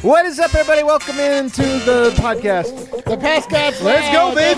What is up, everybody? Welcome into the podcast. The Pascats. Let's go, baby!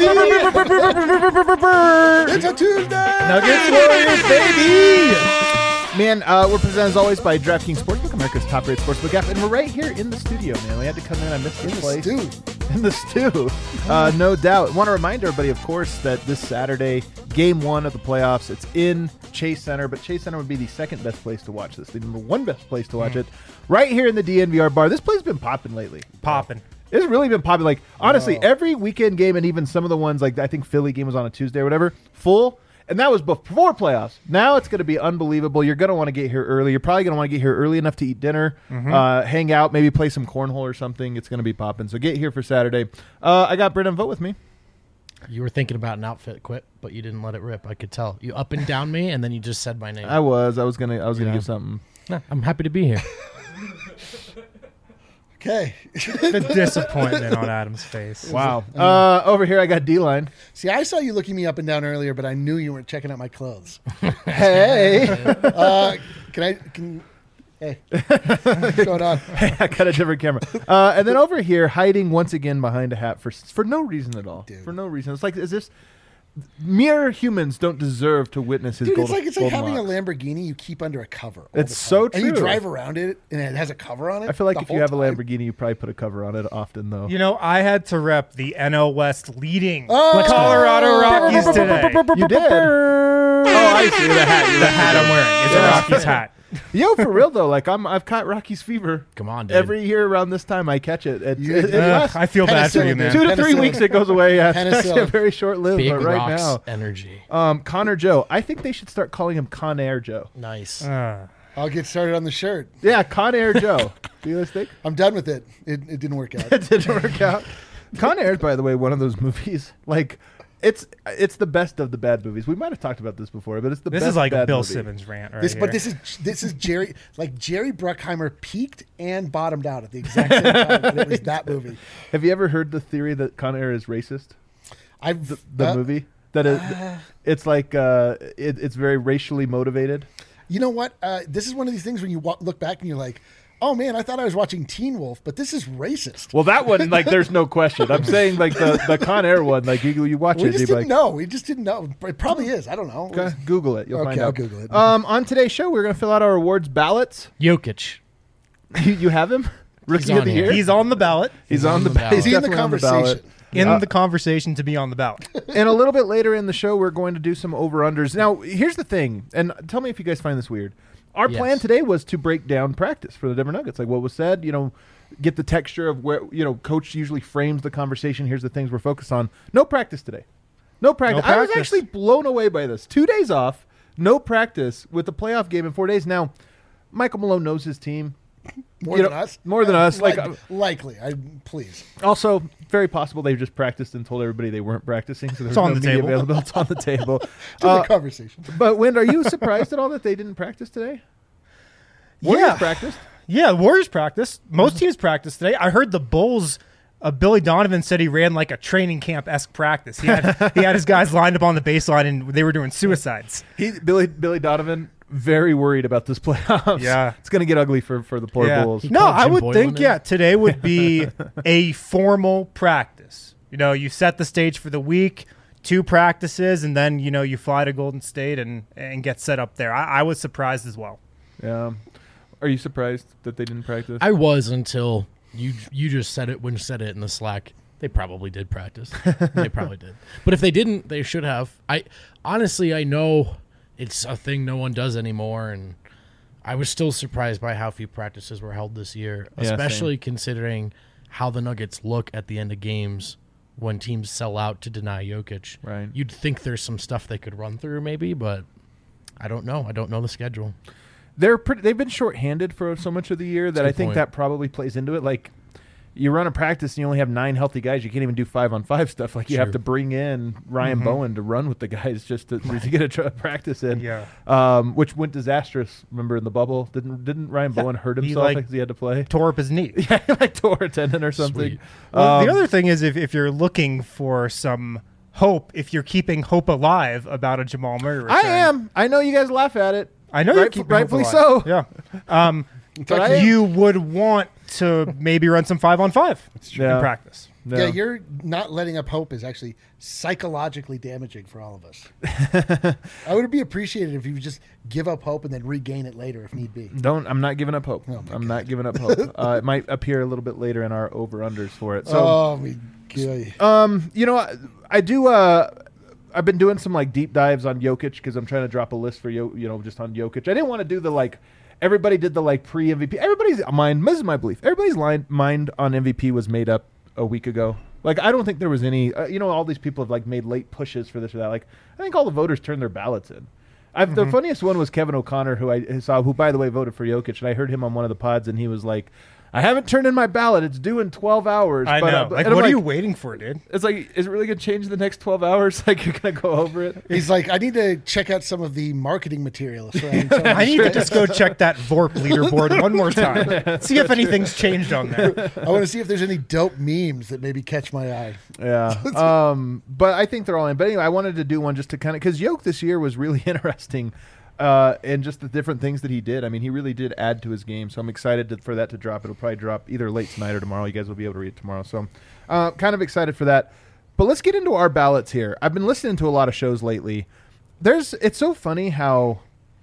It's a Tuesday. Nuggets Warriors, baby! Man, we're presented as always by DraftKings Sportsbook, America's top-rated sportsbook app, and we're right here in the studio, man. We had to come in. I missed the place. In the stew. No doubt. Want to remind everybody, of course, that this Saturday, game one of the playoffs, it's in Chase Center, but Chase Center would be the second best place to watch this. The number one best place to watch it. Right here in the DNVR bar. This place has been popping lately. It's really been popping. Like, honestly, every weekend game, and even some of the ones, like I think Philly game was on a Tuesday or whatever, full. And that was before playoffs. Now it's going to be unbelievable. You're going to want to get here early. You're probably going to want to get here early enough to eat dinner, hang out, maybe play some cornhole or something. It's going to be popping. So get here for Saturday. I got Brendan Vogt with me. You were thinking about an outfit quit, but you didn't let it rip. I could tell. You up and down me, and then you just said my name. I was gonna give something. No, I'm happy to be here. Okay. The disappointment on Adam's face. Wow. Over here I got D-Line. See, I saw you looking me up and down earlier, but I knew you weren't checking out my clothes. Hey. Hey. What's going on? I got a different camera. And then over here, hiding once again behind a hat for no reason at all. Dude. For no reason. It's like, is this... Mere humans don't deserve to witness his golden it's like having locks. a Lamborghini you keep under a cover. All It's the time. so true. And you drive around it, and it has a cover on it. I feel like the if you whole have a time. Lamborghini, you probably put a cover on it often, though. You know, I had to rep the NL West leading Oh! Colorado Rockies today. You did. Oh, I see the hat. The hat I'm wearing. It's a Rockies hat. Yo, for real though, like I've caught Rockies fever. Come on, dude. Every year around this time, I catch it. It Yeah. lasts I feel bad for you, man. 2 to 3 Penicillin. weeks. It goes away. Yeah, it's Penicillin. actually very short lived. Big But right rocks now, energy. Connor Joe. I think they should start calling him Con Air Joe. Nice. I'll get started on the shirt. Yeah, Con Air Joe. Do you guys think? I'm done with it. It didn't work out. It didn't work out. Con Air is, by the way, one of those movies. Like, it's the best of the bad movies. We might have talked about this before, but it's the This best is like a bad Bill movie. Simmons rant right But here. this is Jerry. Like Jerry Bruckheimer peaked and bottomed out at the exact same time. And it was that movie. Have you ever heard the theory that Con Air is racist? The The movie that it's like it's very racially motivated. You know what? This is one of these things when you look back and you're like, oh man, I thought I was watching Teen Wolf, but this is racist. Well, that one, like, there's no question. I'm saying, like, the Con Air one, like, you watch We it, just you'd be didn't like, know. We just didn't know. It probably is. I don't know. okay, Google it. You'll Okay, find out. I'll Google it. On today's show, we're going to fill out our awards ballots. Jokic. You have him? Rookie on of the here. year? He's on the ballot. He's on the ballot. Is he in the definitely on conversation? In the conversation to be on the ballot. And a little bit later in the show, we're going to do some over-unders. Now, here's the thing, and tell me if you guys find this weird. Our Yes. plan today was to break down practice for the Denver Nuggets, like what was said, get the texture of where, coach usually frames the conversation. Here's the things we're focused on. No practice today. No practice. No I was practice. actually blown away by this. 2 days off, no practice with the playoff game in 4 days. Now, Michael Malone knows his team. More than us? More than us. Likely. Please. Also, very possible they just practiced and told everybody they weren't practicing. So there's on no the media table. available. It's on the table. To the conversation. But Wind, are you surprised at all that they didn't practice today? Warriors practiced. Yeah, Warriors practice. Most teams practice today. I heard the Bulls. Billy Donovan said he ran like a training camp-esque practice. He had his guys lined up on the baseline and they were doing suicides. Billy Donovan, very worried about this playoffs. Yeah. It's going to get ugly for the poor Bulls. He No, called I Jim would Boylan think, in. today would be a formal practice. You set the stage for the week, 2 practices, and then, you fly to Golden State and get set up there. I was surprised as well. Yeah. Are you surprised that they didn't practice? I was until you just said it when you said it in the Slack. They probably did practice. They probably did. But if they didn't, they should have. I know it's a thing no one does anymore, and I was still surprised by how few practices were held this year, Yeah, especially considering how the Nuggets look at the end of games when teams sell out to deny Jokic. Right. You'd think there's some stuff they could run through maybe, but I don't know. I don't know the schedule. They've been shorthanded for so much of the year that a I good think point. that probably plays into it. Like, you run a practice and you only have 9 healthy guys. You can't even do 5-on-5 stuff. Like, you have True. to bring in Ryan Bowen to run with the guys just to get a practice in. Yeah. Which went disastrous. Remember in the bubble, didn't Ryan Bowen hurt He, himself like, because he had to play? Tore up his knee. Yeah, like tore a tendon or something. Sweet. Well, the other thing is if you're looking for some hope, if you're keeping hope alive about a Jamal Murray return. I am. I know you guys laugh at it. I know you're keeping hope rightfully alive. so. Yeah. But I am. You would want to maybe run some 5-on-5 in practice. No. Yeah, you're not letting up hope is actually psychologically damaging for all of us. I would be appreciated if you would just give up hope and then regain it later if need be. I'm not giving up hope. Oh, my I'm God. not giving up hope. It might appear a little bit later in our over-unders for it. So, Oh, my God. you know, I do. I've been doing some like deep dives on Jokic because I'm trying to drop a list for just on Jokic. I didn't want to do the like. Everybody did the like pre-MVP. Everybody's mind. This is my belief. Everybody's mind on MVP was made up a week ago. Like, I don't think there was any, all these people have like made late pushes for this or that. Like, I think all the voters turned their ballots in. The funniest one was Kevin O'Connor, who I saw, who by the way voted for Jokic, and I heard him on one of the pods, and he was like, I haven't turned in my ballot. It's due in 12 hours. I know. Like, What are you waiting for, dude? It's like, is it really going to change in the next 12 hours? Like, you're going to go over it? He's like, I need to check out some of the marketing material. I need to just go check that VORP leaderboard one more time. See if anything's changed on there. I want to see if there's any dope memes that maybe catch my eye. Yeah. But I think they're all in. But anyway, I wanted to do one just to kind of, because Yoke this year was really interesting. And just the different things that he did. I mean, he really did add to his game. So I'm excited for that to drop. It'll probably drop either late tonight or tomorrow. You guys will be able to read it tomorrow. So kind of excited for that. But let's get into our ballots here. I've been listening to a lot of shows lately. It's so funny how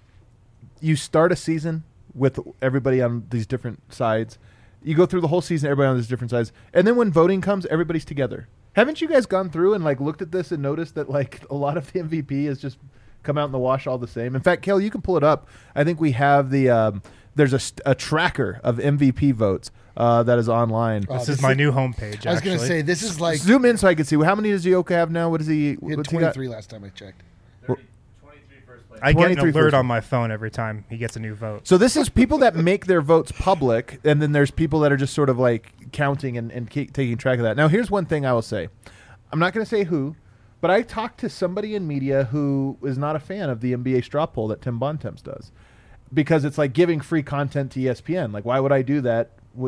you start a season with everybody on these different sides. You go through the whole season, everybody on these different sides. And then when voting comes, everybody's together. Haven't you guys gone through and like looked at this and noticed that like a lot of the MVP is just come out in the wash all the same? In fact, Kel, you can pull it up. I think we have the there's a tracker of MVP votes that is online. This is my new homepage. I was going to say, this is like Zoom in so I can see. How many does Yoka have now? What is he? he had What's he got? 23 last time I checked. 23 first place. I get an 23 alert first. on my phone every time he gets a new vote. So this is people that make their votes public, and then there's people that are just sort of like counting and taking track of that. Now, here's one thing I will say. I'm not going to say who, but I talked to somebody in media who is not a fan of the NBA straw poll that Tim Bontemps does, because it's like giving free content to ESPN. Like, why would I do that?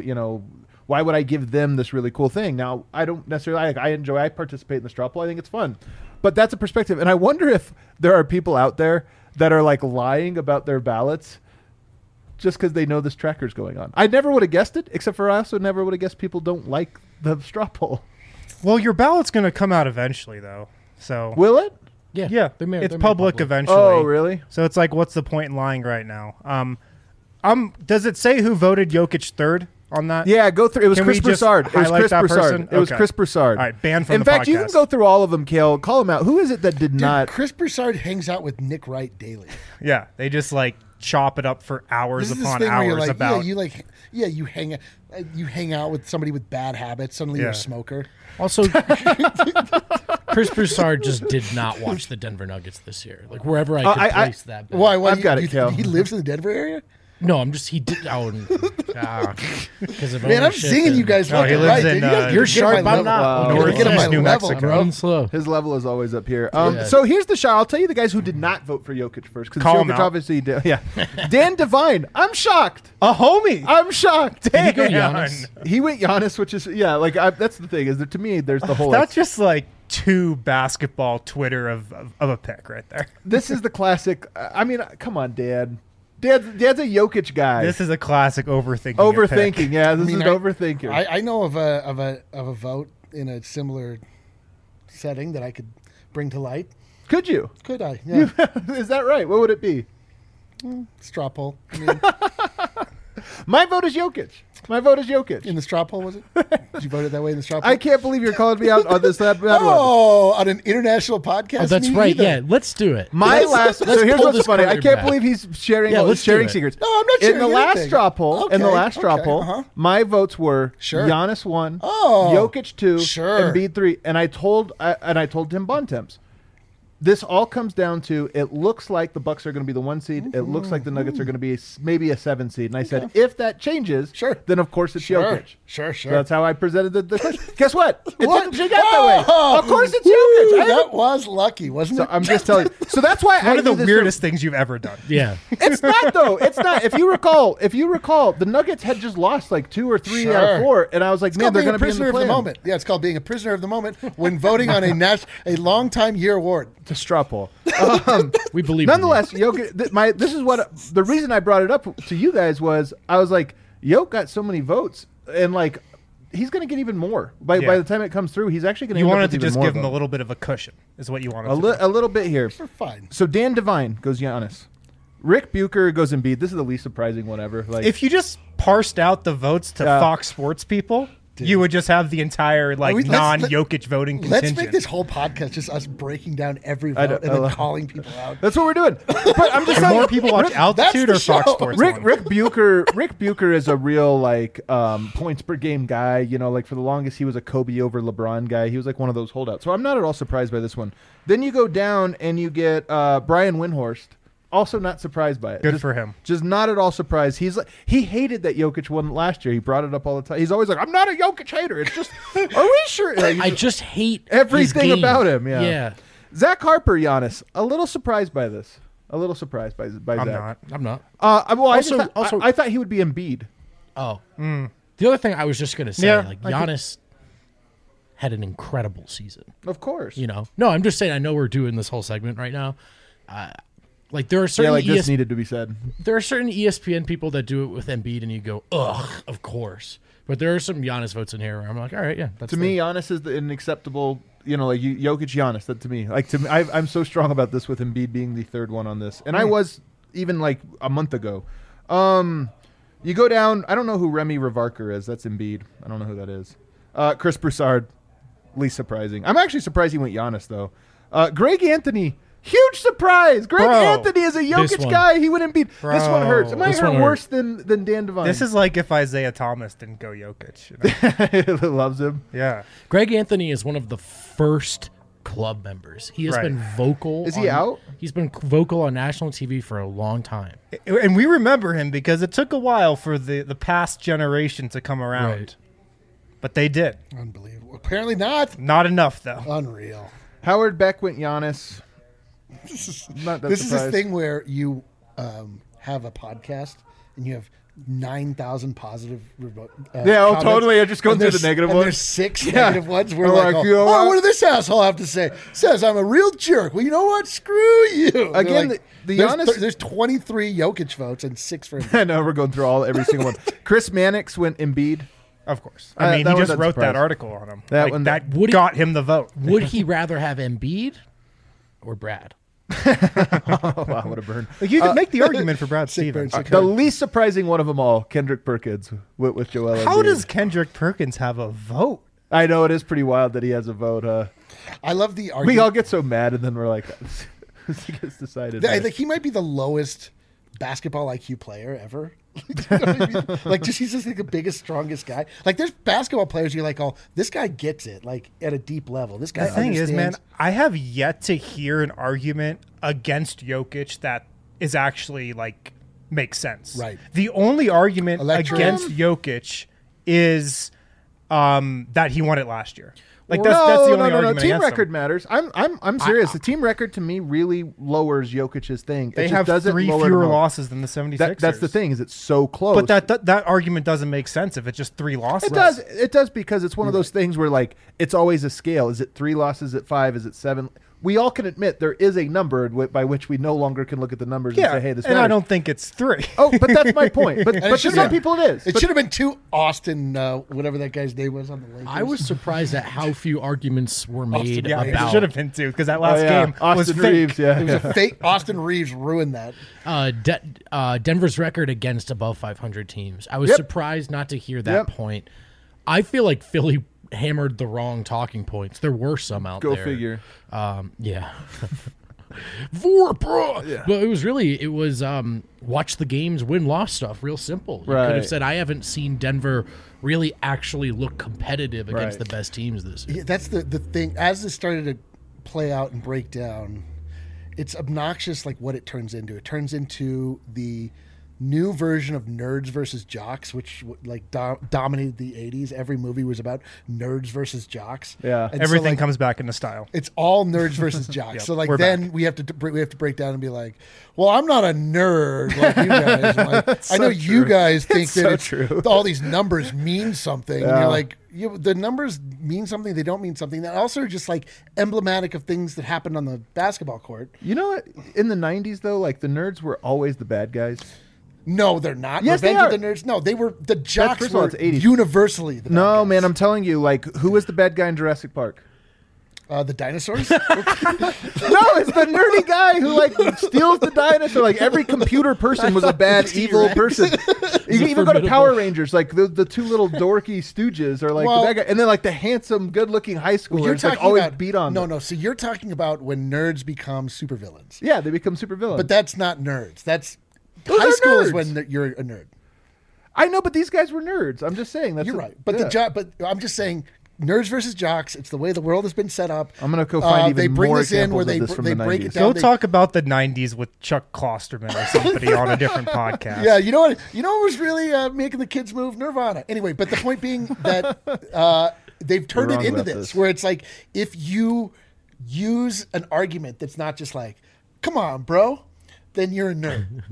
Why would I give them this really cool thing? Now, I don't necessarily. I participate in the straw poll. I think it's fun, but that's a perspective. And I wonder if there are people out there that are like lying about their ballots just because they know this tracker's going on. I never would have guessed it, except for I also never would have guessed people don't like the straw poll. Well, your ballot's going to come out eventually, though. So Will it? Yeah, yeah, they're made- it's they're made public public. eventually. Oh, really? So it's like, what's the point in lying right now? Does it say who voted Jokic third on that? Yeah, go through. It was Can Chris we just Broussard. It was highlight Chris that Broussard. person? It was Okay. Chris Broussard. All right, banned from In the fact, you can podcast. go through all of them, Kale. Call them out. Who is it that did Dude, not? Chris Broussard hangs out with Nick Wright daily. Yeah, they just like chop it up for hours This is this upon thing where you're hours like, about. you hang out with somebody with bad habits. Suddenly you're Yeah. a smoker. Also, Chris Broussard just did not watch the Denver Nuggets this year. Like wherever I could I- place that. bet. Why? I've got it, you, Kel. He lives in the Denver area. No, I'm just he did. Because of Man, I'm ownership seeing and- you guys No, left he and lives right. in, dude. You guys You're get on sharp, my I'm level. not. Wow. You gotta get on Northeast my New level, Mexico. bro. Going slow. His level is always up here. Yeah. So here's the shot. I'll tell you the guys who did not vote for Jokic first. Because Call 'em Jokic out. obviously did. Yeah. Dan Devine. I'm shocked. a homie. I'm shocked. Did he go Damn. Giannis? He went Giannis, which is that's the thing. Is that to me, there's the whole. That's just like two basketball Twitter of a pick right there. This is the classic. I mean, come on, Dad. Dad's a Jokic guy. This is a classic overthinking. Overthinking. Yeah, this is I- overthinking. I know of a vote in a similar setting that I could bring to light. Could you? Could I? Yeah. Is that right? What would it be? Straw poll. I mean, My vote is Jokic. My vote is Jokic. in the straw poll, was it? Did you vote it that way in the straw poll? I can't believe you're calling me out on this. That one. Oh, on an international podcast. Oh, that's Me right. either. Yeah, let's do it. My Let's- last. let's So here's pull what's this funny. I curtain can't back. believe he's sharing Yeah, let's do sharing it. secrets. No, I'm not In sharing the last anything. straw poll. In the Okay, last straw okay, poll, uh-huh. my votes were Sure. Giannis 1, Oh, Jokic 2, sure. Embiid 3, and I told Tim Bontemps. This all comes down to it looks like the Bucks are going to be the 1 seed. It looks like the Nuggets are going to be maybe a 7 seed. And I said, if that changes, Sure. then of course it's Jokic. Sure. So that's how I presented the question. Guess what? It What? didn't shake out that way. Oh, Of course it's woo, Jokic. I that was lucky, wasn't so it? I'm just telling you. So that's why I One of the knew this weirdest things you've ever done. Yeah. It's not though. It's not. If you recall, the Nuggets had just lost like 2 or 3 out of Sure. 4, and I was like, It's man, called they're being going a to be in prisoner the of the play-in. moment. Yeah, it's called being a prisoner of the moment when voting on a long-time year award. To straw poll. We believe. in you. Nonetheless, Jokic. This is what the reason I brought it up to you guys was I was like, Yoke got so many votes, and like he's going to get even more by the time it comes through. He's actually going to. You wanted to just give him a little bit of a cushion, is what you wanted. A little bit here. We're fine. So Dan Devine goes Giannis. Rick Bucher goes Embiid. This is the least surprising one ever. Like, if you just parsed out the votes to Fox Sports people, you would just have the entire non-Jokic voting contingent. Let's make this whole podcast just us breaking down every vote and then calling people out. That's what we're doing. But I'm just Do more people watch Altitude or Fox Sports? Rick Bucher is a real points per game guy. You know, like for the longest he was a Kobe over LeBron guy. He was like one of those holdouts. So I'm not at all surprised by this one. Then you go down and you get Brian Windhorst. Also not surprised by it. Good for him. Just not at all surprised. He hated that Jokic won last year. He brought it up all the time. He's always like, I'm not a Jokic hater. It's just, are we sure? Like, I just hate everything his game. about him. Yeah. Yeah. Zach Harper, Giannis. A little surprised by this. A little surprised by I'm Zach. I'm not. Well, Also- I thought he would be Embiid. Oh. The other thing I was just going to say, Giannis had an incredible season. Of course. You know? No, I'm just saying, I know we're doing this whole segment right now. Like there are certain this needed to be said. There are certain ESPN people that do it with Embiid, and you go, ugh, of course. But there are some Giannis votes in here where I'm like, all right, yeah. That's to me, Giannis is an acceptable. You know, like Jokic, Giannis. That to me, I'm so strong about this with Embiid being the third one on this, and I was even like a month ago. You go down. I don't know who Remy Revarker is. That's Embiid. I don't know who that is. Chris Broussard, least surprising. I'm actually surprised he went Giannis though. Greg Anthony. Huge surprise! Greg Anthony is a Jokic guy. He wouldn't beat. This one hurts. It might hurt worse than Dan Devine. This is like if Isaiah Thomas didn't go Jokic. You know? Loves him. Yeah. Greg Anthony is one of the first club members. He has been vocal. Is he out? He's been vocal on national TV for a long time. And we remember him because it took a while for the past generation to come around. Right. But they did. Unbelievable. Apparently not. Not enough, though. Unreal. Howard Beck went Giannis. This is a thing where you have a podcast and you have 9,000 positive comments, totally. I just go through the negative ones. There's 6 negative ones. We're like, what did this asshole have to say? Says I'm a real jerk. Well, you know what? Screw you. Again, like, there's 23 Jokic votes and 6 for Embiid. I know, we're going through every single one. Chris Mannix went Embiid. Of course. I mean, he just wrote that article on him. That got him the vote. Would he rather have Embiid or Brad? Wow, what a burn. Like you could make the argument for Brad Stevens. The least surprising one of them all, Kendrick Perkins with Joel Embiid. How does Kendrick Perkins have a vote? I know, it is pretty wild that he has a vote. I love the argument. We all get so mad, and then we're like, he gets decided. Like he might be the lowest basketball IQ player ever. You know what I mean? Like, he's just like the biggest, strongest guy. Like, there's basketball players you're like, oh, this guy gets it, like at a deep level. This guy. The thing is, man, I have yet to hear an argument against Jokic that is actually like makes sense. Right. The only argument against Jokic is that he won it last year. Like that's the only argument. Team record matters. I'm serious. The team record to me really lowers Jokic's thing. They have 3 fewer losses than the 76ers. That's the thing. Is it's so close. But that argument doesn't make sense if it's just 3 losses. It does because it's one of those things where like it's always a scale. Is it 3 losses? Is it 5? Is it 7? We all can admit there is a number by which we no longer can look at the numbers and say, hey, this matters. I don't think it's 3. Oh, but that's my point. But to some people it is. It should have been 2 Austin, whatever that guy's name was on the Lakers. I was surprised at how few arguments were made about. It should have been 2 because that last game Austin was Reeves, fake. yeah. It was a fake. Austin Reeves ruined that. Denver's record against above 500 teams. I was surprised not to hear that point. I feel like Philly hammered the wrong talking points. There were some out there. Go figure. Yeah. Vorpa. But it was watch the games, win-loss stuff. Real simple. You could have said, I haven't seen Denver really actually look competitive against the best teams this year. Yeah, that's the thing. As this started to play out and break down, it's obnoxious like what it turns into. It turns into the new version of Nerds versus Jocks, which like dominated the 80s. Every movie was about nerds versus jocks. Yeah, and everything so, like, comes back into style. It's all nerds versus jocks. So like then we have to break down and be like, well, I'm not a nerd like you guys. Like, I know you guys think that all these numbers mean something. And you're like, the numbers mean something. They don't mean something. That also are just like emblematic of things that happened on the basketball court. You know what? In the 90s though, like the nerds were always the bad guys. No, they're not. Yes, Revenge they of are. the Nerds. No, they were the jocks. first of all, Were it's 80s. universally the bad No, guys. man, I'm telling you, like, who was the bad guy in Jurassic Park? The dinosaurs. No, it's the nerdy guy who like steals the dinosaur. Like every computer person was a bad, evil person. You can even go to Power Rangers. Like the two little dorky stooges are like the bad guy, and then like the handsome, good-looking high schoolers like always beat on them. No. So you're talking about when nerds become supervillains. Yeah, they become supervillains. But that's not nerds. That's Those high are school is nerds. when you're a nerd. I know, but these guys were nerds. I'm just saying that's You're right. But but I'm just saying. Nerds versus jocks. It's the way the world has been set up. I'm gonna go find even they bring more this in where examples of this from they the break 90s. it down. Go talk about the 90s with Chuck Klosterman or somebody on a different podcast. Yeah, you know what was really making the kids move? Nirvana. Anyway, but the point being that they've turned We're it wrong into about this, this. where it's like if you use an argument that's not just like, "Come on, bro," then you're a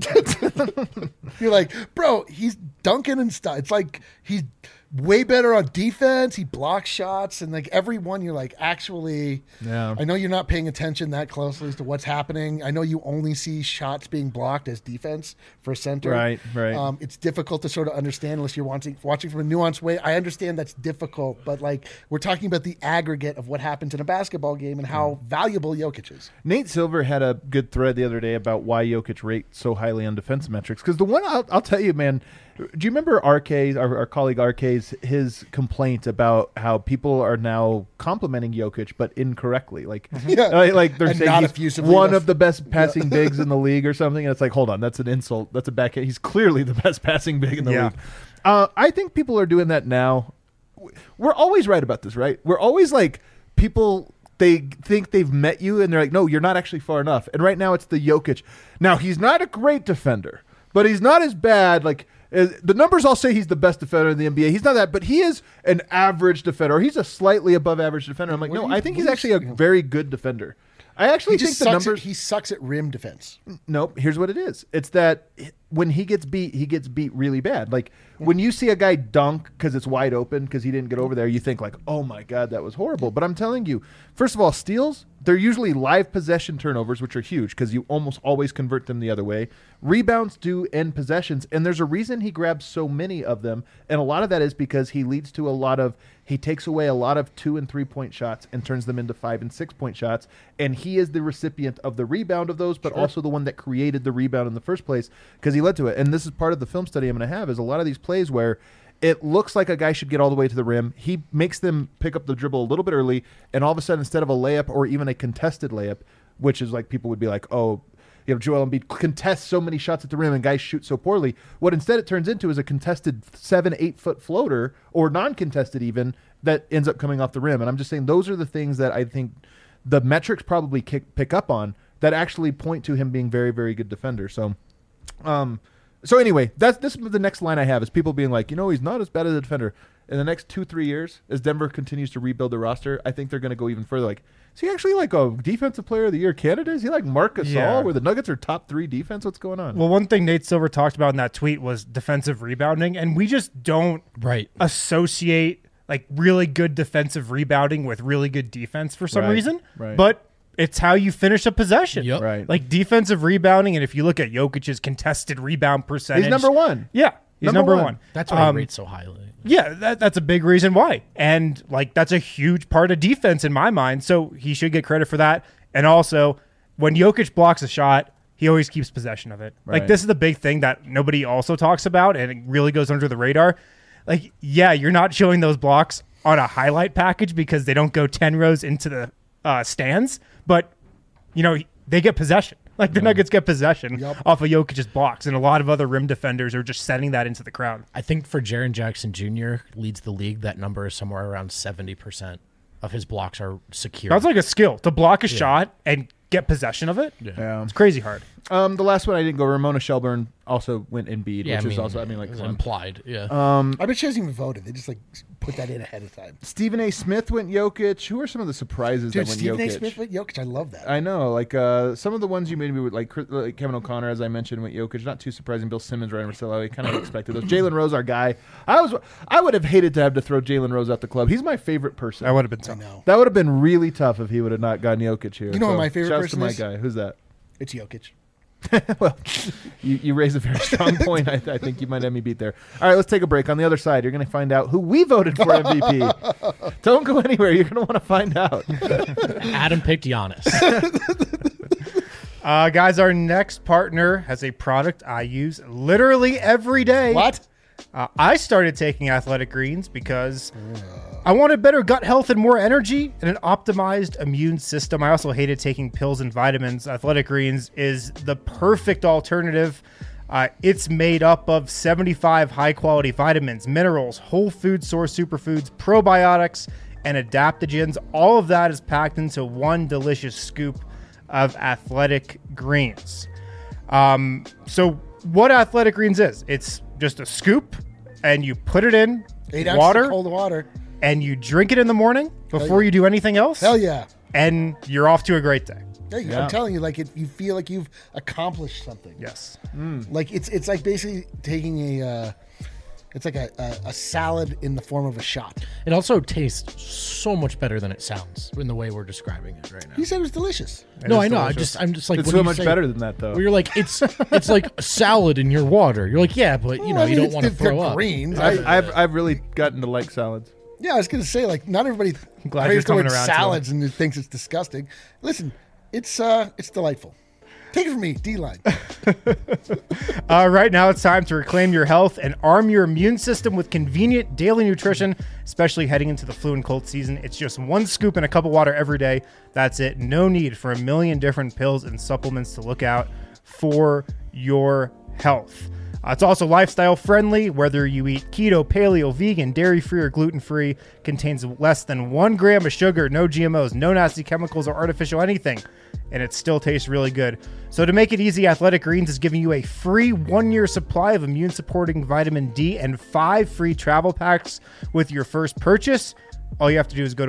nerd. You're like, "Bro, he's dunking and stuff." It's like he's way better on defense. He blocks shots, and like every one, you're like, actually, Yeah. I know you're not paying attention that closely as to what's happening. I know you only see shots being blocked as defense for a center. Right. It's difficult to sort of understand unless you're watching from a nuanced way. I understand that's difficult, but like we're talking about the aggregate of what happens in a basketball game and how valuable Jokic is. Nate Silver had a good thread the other day about why Jokic rates so highly on defense metrics. Because the one I'll tell you, man, do you remember RK's, our colleague RK's, his complaint about how people are now complimenting Jokic, but incorrectly? Like, like they're And saying not he's effusively one enough. of the best passing bigs in the league or something. And it's like, hold on, that's an insult. That's a backhand. He's clearly the best passing big in the Yeah. league. I think people are doing that now. We're always right about this, right? We're always like, people, they think they've met you and they're like, no, you're not actually far enough. And right now it's the Jokic. Now, he's not a great defender, but he's not as bad. Like, the numbers all say he's the best defender in the NBA. He's not that, but he is an average defender. Or he's a slightly above average defender. I'm like, no, I think he's actually a very good defender. I actually think the numbers. He sucks at rim defense. Nope. Here's what it is. It's that when he gets beat really bad. Like when you see a guy dunk because it's wide open because he didn't get over there, you think like, oh my God, that was horrible. But I'm telling you, first of all, steals, they're usually live possession turnovers, which are huge because you almost always convert them the other way. Rebounds do end possessions, and there's a reason he grabs so many of them. And a lot of that is because he takes away a lot of 2 and 3 point shots and turns them into 5 and 6 point shots. And he is the recipient of the rebound of those, but also the one that created the rebound in the first place because he led to it. And this is part of the film study I'm going to have is a lot of these plays where it looks like a guy should get all the way to the rim. He makes them pick up the dribble a little bit early, and all of a sudden, instead of a layup or even a contested layup, which is like people would be like, oh, Joel Embiid contests so many shots at the rim and guys shoot so poorly. What instead it turns into is a contested 7-8 foot floater or non-contested even that ends up coming off the rim. And I'm just saying those are the things that I think the metrics probably pick up on that actually point to him being very, very good defender. So anyway, this is the next line I have is people being like, he's not as bad as a defender. In the next 2-3 years, as Denver continues to rebuild the roster, I think they're going to go even further. Like, is he actually like a defensive player of the year candidate? Is he like Marc Gasol, where the Nuggets are top 3 defense? What's going on? Well, one thing Nate Silver talked about in that tweet was defensive rebounding, and we just don't associate like really good defensive rebounding with really good defense for some reason. Right. But it's how you finish a possession. Yep. Right. Like defensive rebounding, and if you look at Jokic's contested rebound percentage, He's number one. Yeah, he's number one. That's why he rates so highly. Yeah, that's a big reason why. And like that's a huge part of defense in my mind. So he should get credit for that. And also, when Jokic blocks a shot, he always keeps possession of it. Right. Like this is the big thing that nobody also talks about and it really goes under the radar. Like, yeah, you're not showing those blocks on a highlight package because they don't go 10 rows into the stands, but they get possession. Like the Nuggets get possession off of Jokic's blocks, and a lot of other rim defenders are just setting that into the crowd. I think for Jaren Jackson Jr. leads the league. That number is somewhere around 70% of his blocks are secure. That's like a skill to block a shot and get possession of it. Yeah. It's crazy hard. The last one I didn't go. Ramona Shelburne also went Embiid, Yeah, which I is mean, also, like, it was fun. implied. Yeah. I bet she hasn't even voted. They just like put that in ahead of time. Stephen A. Smith went Jokic. Who are some of the surprises Dude, that went Stephen Jokic? A. Smith went Jokic. I love that. I know, like some of the ones you maybe would like Kevin O'Connor, as I mentioned, went Jokic. Not too surprising. Bill Simmons, Ryan Russillo, I kind of expected those. Jalen Rose, our guy. I would have hated to have to throw Jalen Rose out the club. He's my favorite person. That would have been I tough. know. That would have been really tough if he would have not gotten Jokic here. You know what my favorite shouts person to my is? guy. Who's that? It's Jokic. Well, you raise a very strong point. I think you might have me beat there. All right, let's take a break. On the other side, you're going to find out who we voted for MVP. Don't go anywhere. You're going to want to find out. Adam picked Giannis. Guys, our next partner has a product I use literally every day. What? I started taking Athletic Greens because I wanted better gut health and more energy and an optimized immune system. I also hated taking pills and vitamins. Athletic Greens is the perfect alternative. It's made up of 75 high-quality vitamins, minerals, whole food source superfoods, probiotics, and adaptogens. All of that is packed into one delicious scoop of Athletic Greens. So what Athletic Greens is, it's just a scoop, and you put it in 8 ounces water, of cold water, and you drink it in the morning before you do anything else. Hell yeah. And you're off to a great day. I'm telling you, like you feel like you've accomplished something. Yes. Like it's like basically taking it's like a salad in the form of a shot. It also tastes so much better than it sounds in the way we're describing it right now. You said it was delicious. No, I know. I'm just like, It's when so you much say- better than that, though. Where you're like, it's like a salad in your water. You're like, yeah, but you don't want to throw up. Greens. I've really gotten to like salads. Yeah, I was gonna say, like, not everybody glad hears you're the word coming around to salads and thinks it's disgusting. Listen, it's delightful. Take it from me, D-Line. Right now, it's time to reclaim your health and arm your immune system with convenient daily nutrition, especially heading into the flu and cold season. It's just one scoop in a cup of water every day. That's it. No need for a million different pills and supplements to look out for your health. It's also lifestyle friendly, whether you eat keto, paleo, vegan, dairy-free, or gluten-free. Contains less than 1 gram of sugar, no GMOs, no nasty chemicals or artificial anything, and it still tastes really good. So to make it easy, Athletic Greens is giving you a free 1-year supply of immune-supporting vitamin D and 5 free travel packs with your first purchase. All you have to do is go to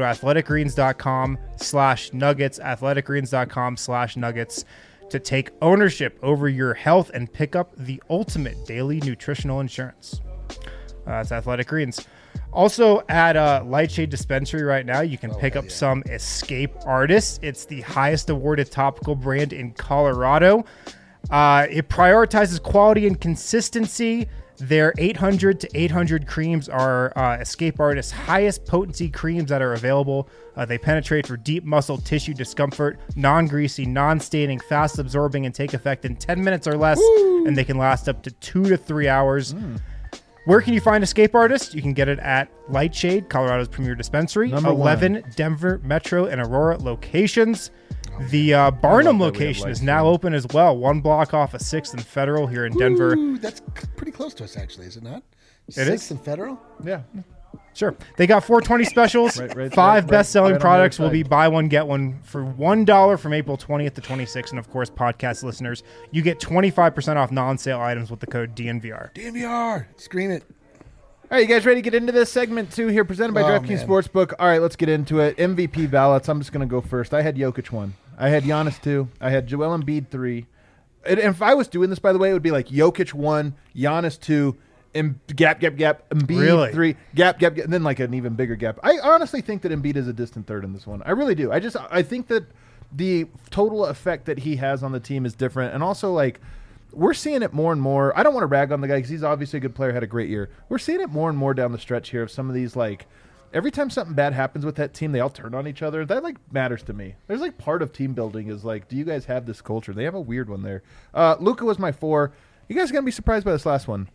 athleticgreens.com/nuggets, athleticgreens.com/nuggets, to take ownership over your health and pick up the ultimate daily nutritional insurance. That's Athletic Greens. Also at Lightshade Dispensary right now, you can pick up some Escape Artists. It's the highest awarded topical brand in Colorado. It prioritizes quality and consistency. Their 800 to 800 creams are Escape Artists' highest potency creams that are available. They penetrate for deep muscle tissue discomfort, non-greasy, non-staining, fast absorbing, and take effect in 10 minutes or less. Woo! And they can last up to 2 to 3 hours. Where can you find Escape Artist? You can get it at Lightshade, Colorado's premier dispensary, Number 11 one. Denver, Metro, and Aurora locations. The Barnum location is now open as well. 1 block off of 6th and Federal here in Denver. Ooh, that's pretty close to us, actually, is it not? It 6th is. and Federal? Yeah. Sure. They got 420 specials. Five best-selling right on the products other will be side. buy one, get one for $1 from April 20th to 26th. And, of course, podcast listeners, you get 25% off non-sale items with the code DNVR. DNVR. Scream it. All right, you guys ready to get into this segment 2 here, presented by DraftKings man. Sportsbook? All right, let's get into it. MVP ballots. I'm just going to go first. I had Jokic 1. I had Giannis 2. I had Joel Embiid 3. And if I was doing this, by the way, it would be like Jokic 1, Giannis 2, gap, Embiid Really? 3, gap, and then like an even bigger gap. I honestly think that Embiid is a distant third in this one. I really do. I think that the total effect that he has on the team is different. And also, like, we're seeing it more and more. I don't want to rag on the guy because he's obviously a good player, had a great year. We're seeing it more and more down the stretch here of some of these, like, every time something bad happens with that team, they all turn on each other. That, like, matters to me. There's, like, part of team building is, like, do you guys have this culture? They have a weird one there. Luka was my 4. You guys are going to be surprised by this last one.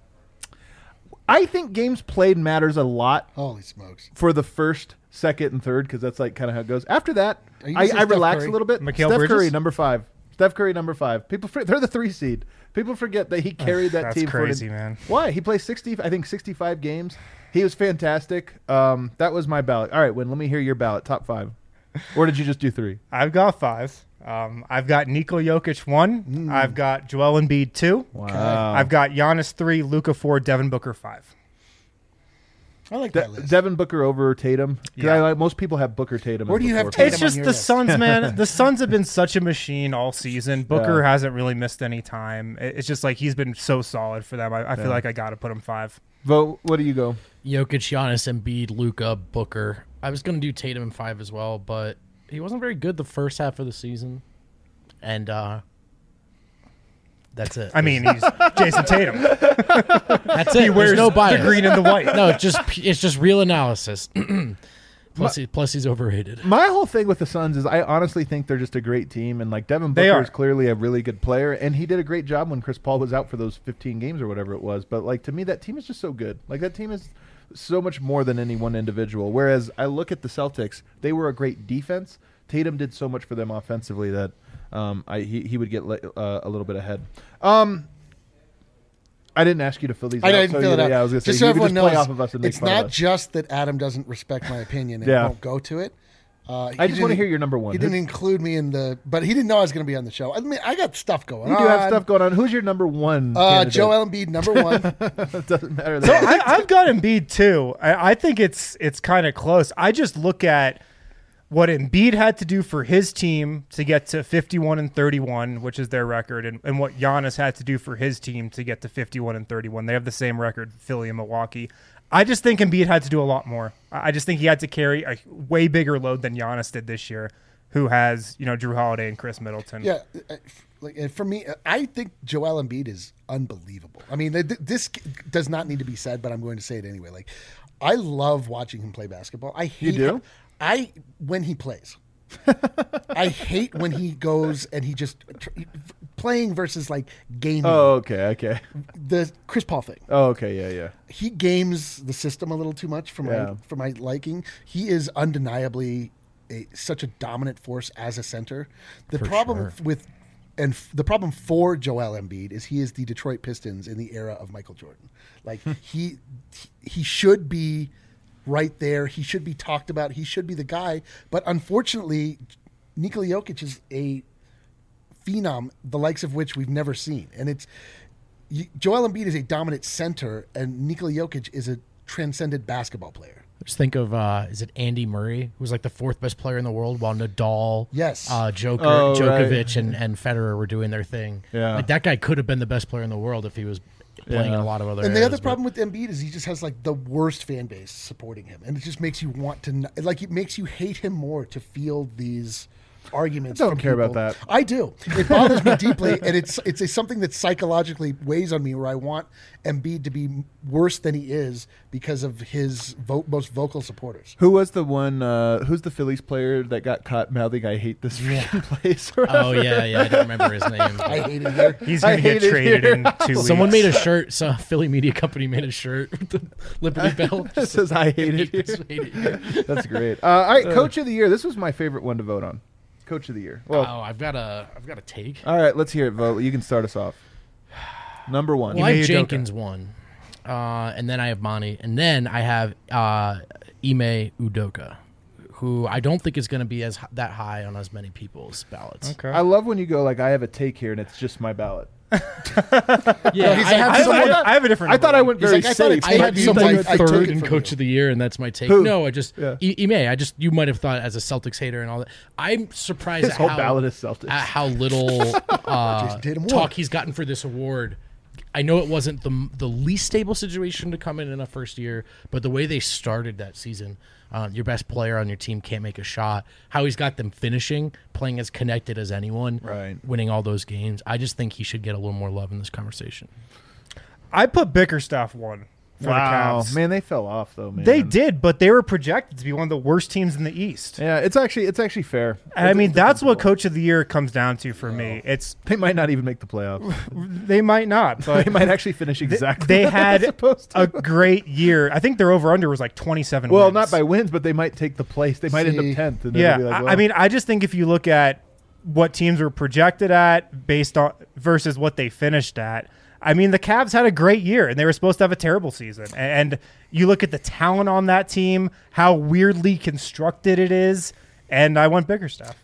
I think games played matters a lot Holy smokes. for the first, second, and third because that's, like, kind of how it goes. After that, Are you gonna say I Steph relax Curry? a little bit. Mikal Steph Bridges? Curry, number 5. Steph Curry, number 5. They're the 3 seed. People forget that he carried that That's team. crazy, man. Why? He plays 65 games. He was fantastic. That was my ballot. All right, Win, let me hear your ballot. Top 5. Or did you just do 3? I've got 5. I've got Nikola Jokic 1. I've got Joel Embiid 2. Wow. I've got Giannis 3, Luka 4, Devin Booker 5. I like that list. Devin Booker over Tatum. 'Cause Yeah. most people have Booker Tatum. Where as do you the have fourth. Tatum? It's just on your the list. Suns, man. The Suns have been such a machine all season. Booker Yeah. hasn't really missed any time. It's just like he's been so solid for them. I feel like I got to put him 5. Vote. What do you go? Jokic, Giannis, Embiid, Luka, Booker. I was going to do Tatum in 5 as well, but he wasn't very good the first half of the season. And That's it. I mean, he's Jason Tatum. That's it. He wears no bias. the green and the white. No, it's just real analysis. Plus, he's overrated. My whole thing with the Suns is I honestly think they're just a great team, and like Devin Booker is clearly a really good player, and he did a great job when Chris Paul was out for those 15 games or whatever it was. But like to me, that team is just so good. Like that team is so much more than any one individual. Whereas I look at the Celtics, they were a great defense. Tatum did so much for them offensively that he would get a little bit ahead. I didn't ask you to fill these out. I didn't fill it out. Yeah, I was going to say, so everyone knows, play off of us and make it's fun of not us. just that Adam doesn't respect my opinion and won't go to it. I just want to hear your number one. He didn't include me in but he didn't know I was going to be on the show. I mean, I got stuff going on. You do have stuff going on. Who's your number one? Joel Embiid, number one. It doesn't matter. So I've got Embiid too. I think it's kind of close. I just look at what Embiid had to do for his team to get to 51-31, which is their record, and what Giannis had to do for his team to get to 51-31. They have the same record, Philly and Milwaukee. I just think Embiid had to do a lot more. I just think he had to carry a way bigger load than Giannis did this year, who has Drew Holiday and Chris Middleton. Yeah, like for me, I think Joel Embiid is unbelievable. I mean, this does not need to be said, but I'm going to say it anyway. Like, I love watching him play basketball. I hate when he plays. I hate when he goes and he just playing versus like gaming. Oh, okay. The Chris Paul thing. Oh, okay, yeah. He games the system a little too much for my liking. He is undeniably such a dominant force as a center. The problem for Joel Embiid is he is the Detroit Pistons in the era of Michael Jordan. Like he should be right there. He should be talked about. He should be the guy. But unfortunately, Nikola Jokic is a phenom, the likes of which we've never seen. And Joel Embiid is a dominant center, and Nikola Jokic is a transcendent basketball player. Just think of, is it Andy Murray, who was like the fourth best player in the world, while Nadal, Djokovic, and Federer were doing their thing. Yeah. Like that guy could have been the best player in the world if he was playing in a lot of other And areas, the other problem with Embiid is he just has like the worst fan base supporting him, and it just makes you want to it makes you hate him more to feel these arguments. I don't care about that. I do. It bothers me deeply, and it's something that psychologically weighs on me, where I want Embiid to be worse than he is because of his most vocal supporters. Who was the one? Who's the Phillies player that got caught mouthing "I hate this freaking place"? Oh yeah, I don't remember his name. I hate it here. He's going to get traded in 2 weeks. Someone made a shirt. So Philly media company made a shirt with the Liberty Bell. It says "I hate it here." That's great. All right, Coach of the Year. This was my favorite one to vote on. Coach of the Year. Well, I've got a take. All right, let's hear it. Vote. You can start us off. Number one. Well, I have Jenkins one, and then I have Monty, and then I have Ime Udoka, who I don't think is going to be that high on as many people's ballots. Okay. I love when you go like, I have a take here, and it's just my ballot. Yeah, I have a different. I thought I went very safe. I had someone I took third it in from Coach you. of the Year, and that's my take. Who? No, I just Yeah. Ime. You might have thought as a Celtics hater and all that. I'm surprised His at whole ballot is Celtics. at how little Tatum talk won. he's gotten for this award. I know it wasn't the least stable situation to come in a first year, but the way they started that season, your best player on your team can't make a shot. How he's got them finishing, playing as connected as anyone, Right. winning all those games. I just think he should get a little more love in this conversation. I put Bickerstaff one for the Cavs. Man, they fell off though. Man, They did, but they were projected to be one of the worst teams in the East. Yeah, it's actually fair. And I mean, that's what Coach of the Year comes down to for me. It's They might not even make the playoffs. they might not, but They might actually finish exactly. they what they're had supposed to. a great year. I think their over under was like 27. Well, wins. not by wins, but they might take the place. They might end See. up 10th. And Yeah, they'll be like, well, I mean, I just think if you look at what teams were projected at based on versus what they finished at, I mean, the Cavs had a great year, and they were supposed to have a terrible season. And you look at the talent on that team, how weirdly constructed it is, and I went Bickerstaff.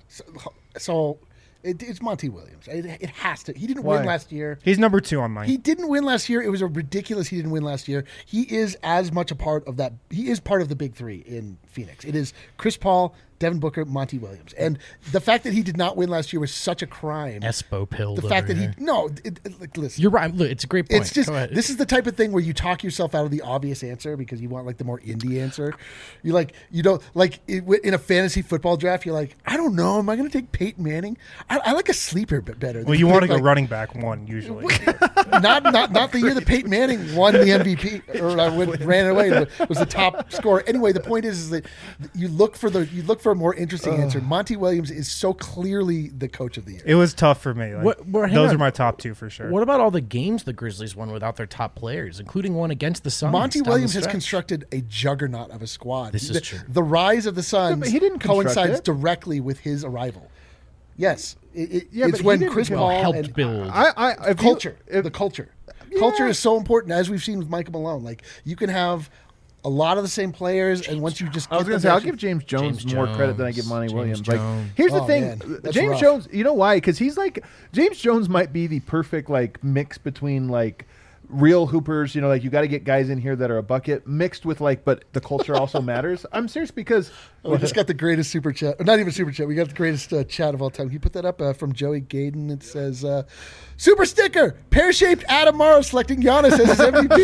So it's Monty Williams. It has to. He didn't Why? win last year. He's number 2 on mine. He didn't win last year. It was a ridiculous he didn't win last year. He is as much a part of that. He is part of the big three in Phoenix. It is Chris Paul, Devin Booker, Monty Williams. And the fact that he did not win last year was such a crime. Espo pilled. The fact that listen. You're right. Look, it's a great point. It's just, this is the type of thing where you talk yourself out of the obvious answer because you want like the more indie answer. You don't like in a fantasy football draft. You're like, I don't know. Am I going to take Peyton Manning? I like a sleeper bit better. Well, you want to go running back one usually. not the year that Peyton Manning won the MVP or ran away. Was the top scorer. Anyway, the point is that you look for a more interesting answer. Monty Williams is so clearly the coach of the year. It was tough for me. Those are my top two for sure. What about all the games the Grizzlies won without their top players, including one against the Suns? Monty Williams has constructed a juggernaut of a squad. This is true. The rise of the Suns coincides directly with his arrival. Yes, it's when Chris Paul helped build culture. The culture. Yeah. Culture is so important, as we've seen with Michael Malone. Like, you can have a lot of the same players, and once you just... I was going to say, I'll give James Jones more credit than I give Monty Williams. Like, here's the thing. James Jones, you know why? Because he's like... James Jones might be the perfect, like, mix between, like, real hoopers, like, you got to get guys in here that are a bucket, mixed with, like, but the culture also matters. I'm serious because... we just got the greatest super chat. Not even super chat. We got the greatest chat of all time. Can you put that up from Joey Gaden? It says, super sticker, pear-shaped Adam Morrow selecting Giannis as his MVP.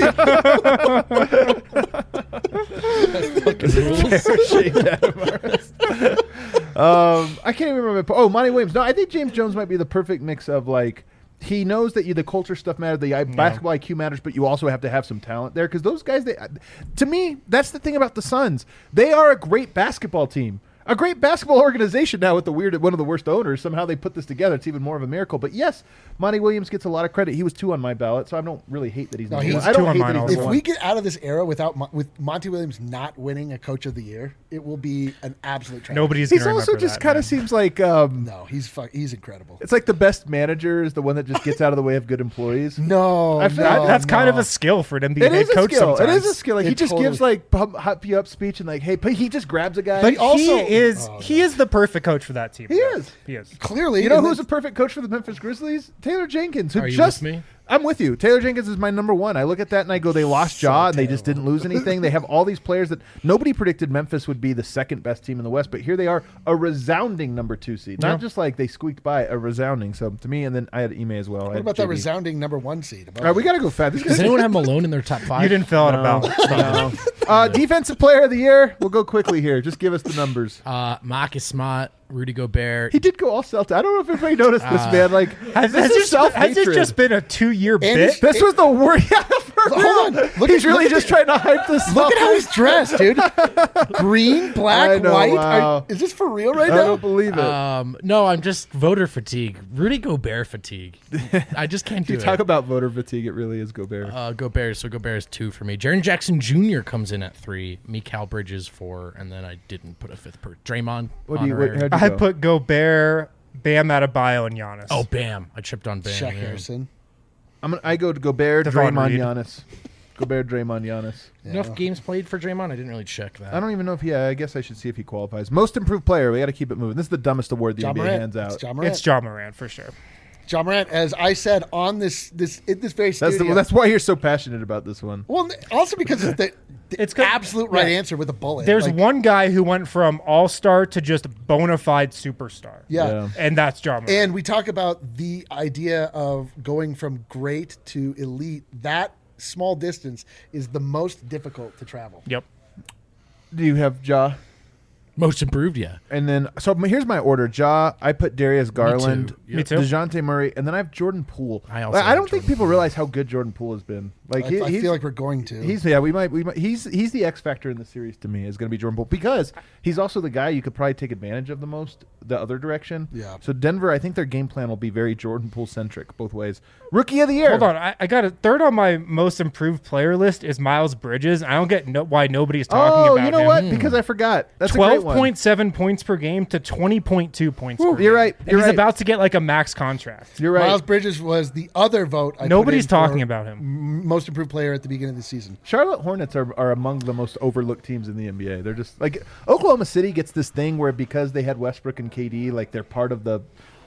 Pear-shaped Adam Morrow. I can't even remember. Oh, Monty Williams. No, I think James Jones might be the perfect mix of, like, he knows that the culture stuff matters, the basketball IQ matters, but you also have to have some talent there because those guys, to me, that's the thing about the Suns. They are a great basketball team, a great basketball organization now with one of the worst owners. Somehow they put this together. It's even more of a miracle. But yes, Monty Williams gets a lot of credit. He was 2 on my ballot, so I don't really hate that he's not. I don't hate that he's If we get out of this era with Monty Williams not winning a Coach of the Year, it will be an absolute tragedy. Nobody's going to remember that. He's also just kind of seems like... no, he's incredible. It's like the best manager is the one that just gets out of the way of good employees. That's kind of a skill for an NBA head coach sometimes. It is a skill. Like, he just gives like hype you up speech and like, hey, but he just grabs a guy. But he is the perfect coach for that team. He is. Clearly. You know who's a perfect coach for the Memphis Grizzlies? Taylor Jenkins. Are you with me? I'm with you. Taylor Jenkins is my number one. I look at that and I go, they lost Ja and they just didn't lose anything. They have all these players that nobody predicted Memphis would be the second best team in the West, but here they are, a resounding number 2 seed. Not just like they squeaked by, a resounding. So to me, and then I had Ime as well. What about that resounding number 1 seed? All right, we got to go fast. Does anyone have Malone in their top 5? You didn't fill out a ballot. No. Defensive player of the year. We'll go quickly here. Just give us the numbers. Marcus Smart, Rudy Gobert. He did go all Celtic. I don't know if everybody noticed this, man. Like, has this just been a 2-year bit? This was the worst. Hold on. He's really just trying to hype this. Look at how he's dressed, dude. Green, black, white. Wow. Is this for real right now? I don't believe it. No, I'm just voter fatigue. Rudy Gobert fatigue. I just can't do it. You talk about voter fatigue. It really is Gobert. Gobert. So Gobert is 2 for me. Jaren Jackson Jr. comes in at 3. Mikal Bridges 4, and then I didn't put a 5th per Draymond. I put Gobert, Bam Adebayo, and Giannis. Oh, Bam! I tripped on Bam. Shaq Harrison. I go to Gobert, Draymond, Reed. Giannis. Gobert, Draymond, Giannis. Yeah. Enough games played for Draymond? I didn't really check that. I don't even know if I guess I should see if he qualifies. Most improved player. We got to keep it moving. This is the dumbest award the NBA hands out. It's Ja Morant for sure. Ja Morant, as I said on this very studio. That's why you're so passionate about this one. Well, also because it's the absolute right answer with a bullet. There's one guy who went from all-star to just bona fide superstar. Yeah. And that's Ja Morant. And we talk about the idea of going from great to elite. That small distance is the most difficult to travel. Yep. Do you have Ja? Most improved, yeah. And then, so here's my order. Ja, I put Darius Garland, Me too. DeJounte Murray, and then I have Jordan Poole. I don't think people realize how good Jordan Poole has been. Like I feel like we're going to. He's the X factor in the series to me is going to be Jordan Poole because he's also the guy you could probably take advantage of the most the other direction. Yeah. So Denver, I think their game plan will be very Jordan Poole centric both ways. Rookie of the year. Hold on, I got a third on my most improved player list is Miles Bridges. I don't get why nobody's talking about him. Oh, you know what? Because I forgot. That's 12.7 points per game to 20.2 points per game. You're right. He's about to get like a max contract. You're right. Miles Bridges was the other vote. Nobody's talking about him. Most improved player at the beginning of the season. Charlotte Hornets are among the most overlooked teams in the NBA. They're just like Oklahoma City gets this thing where because they had Westbrook and KD, like they're part of the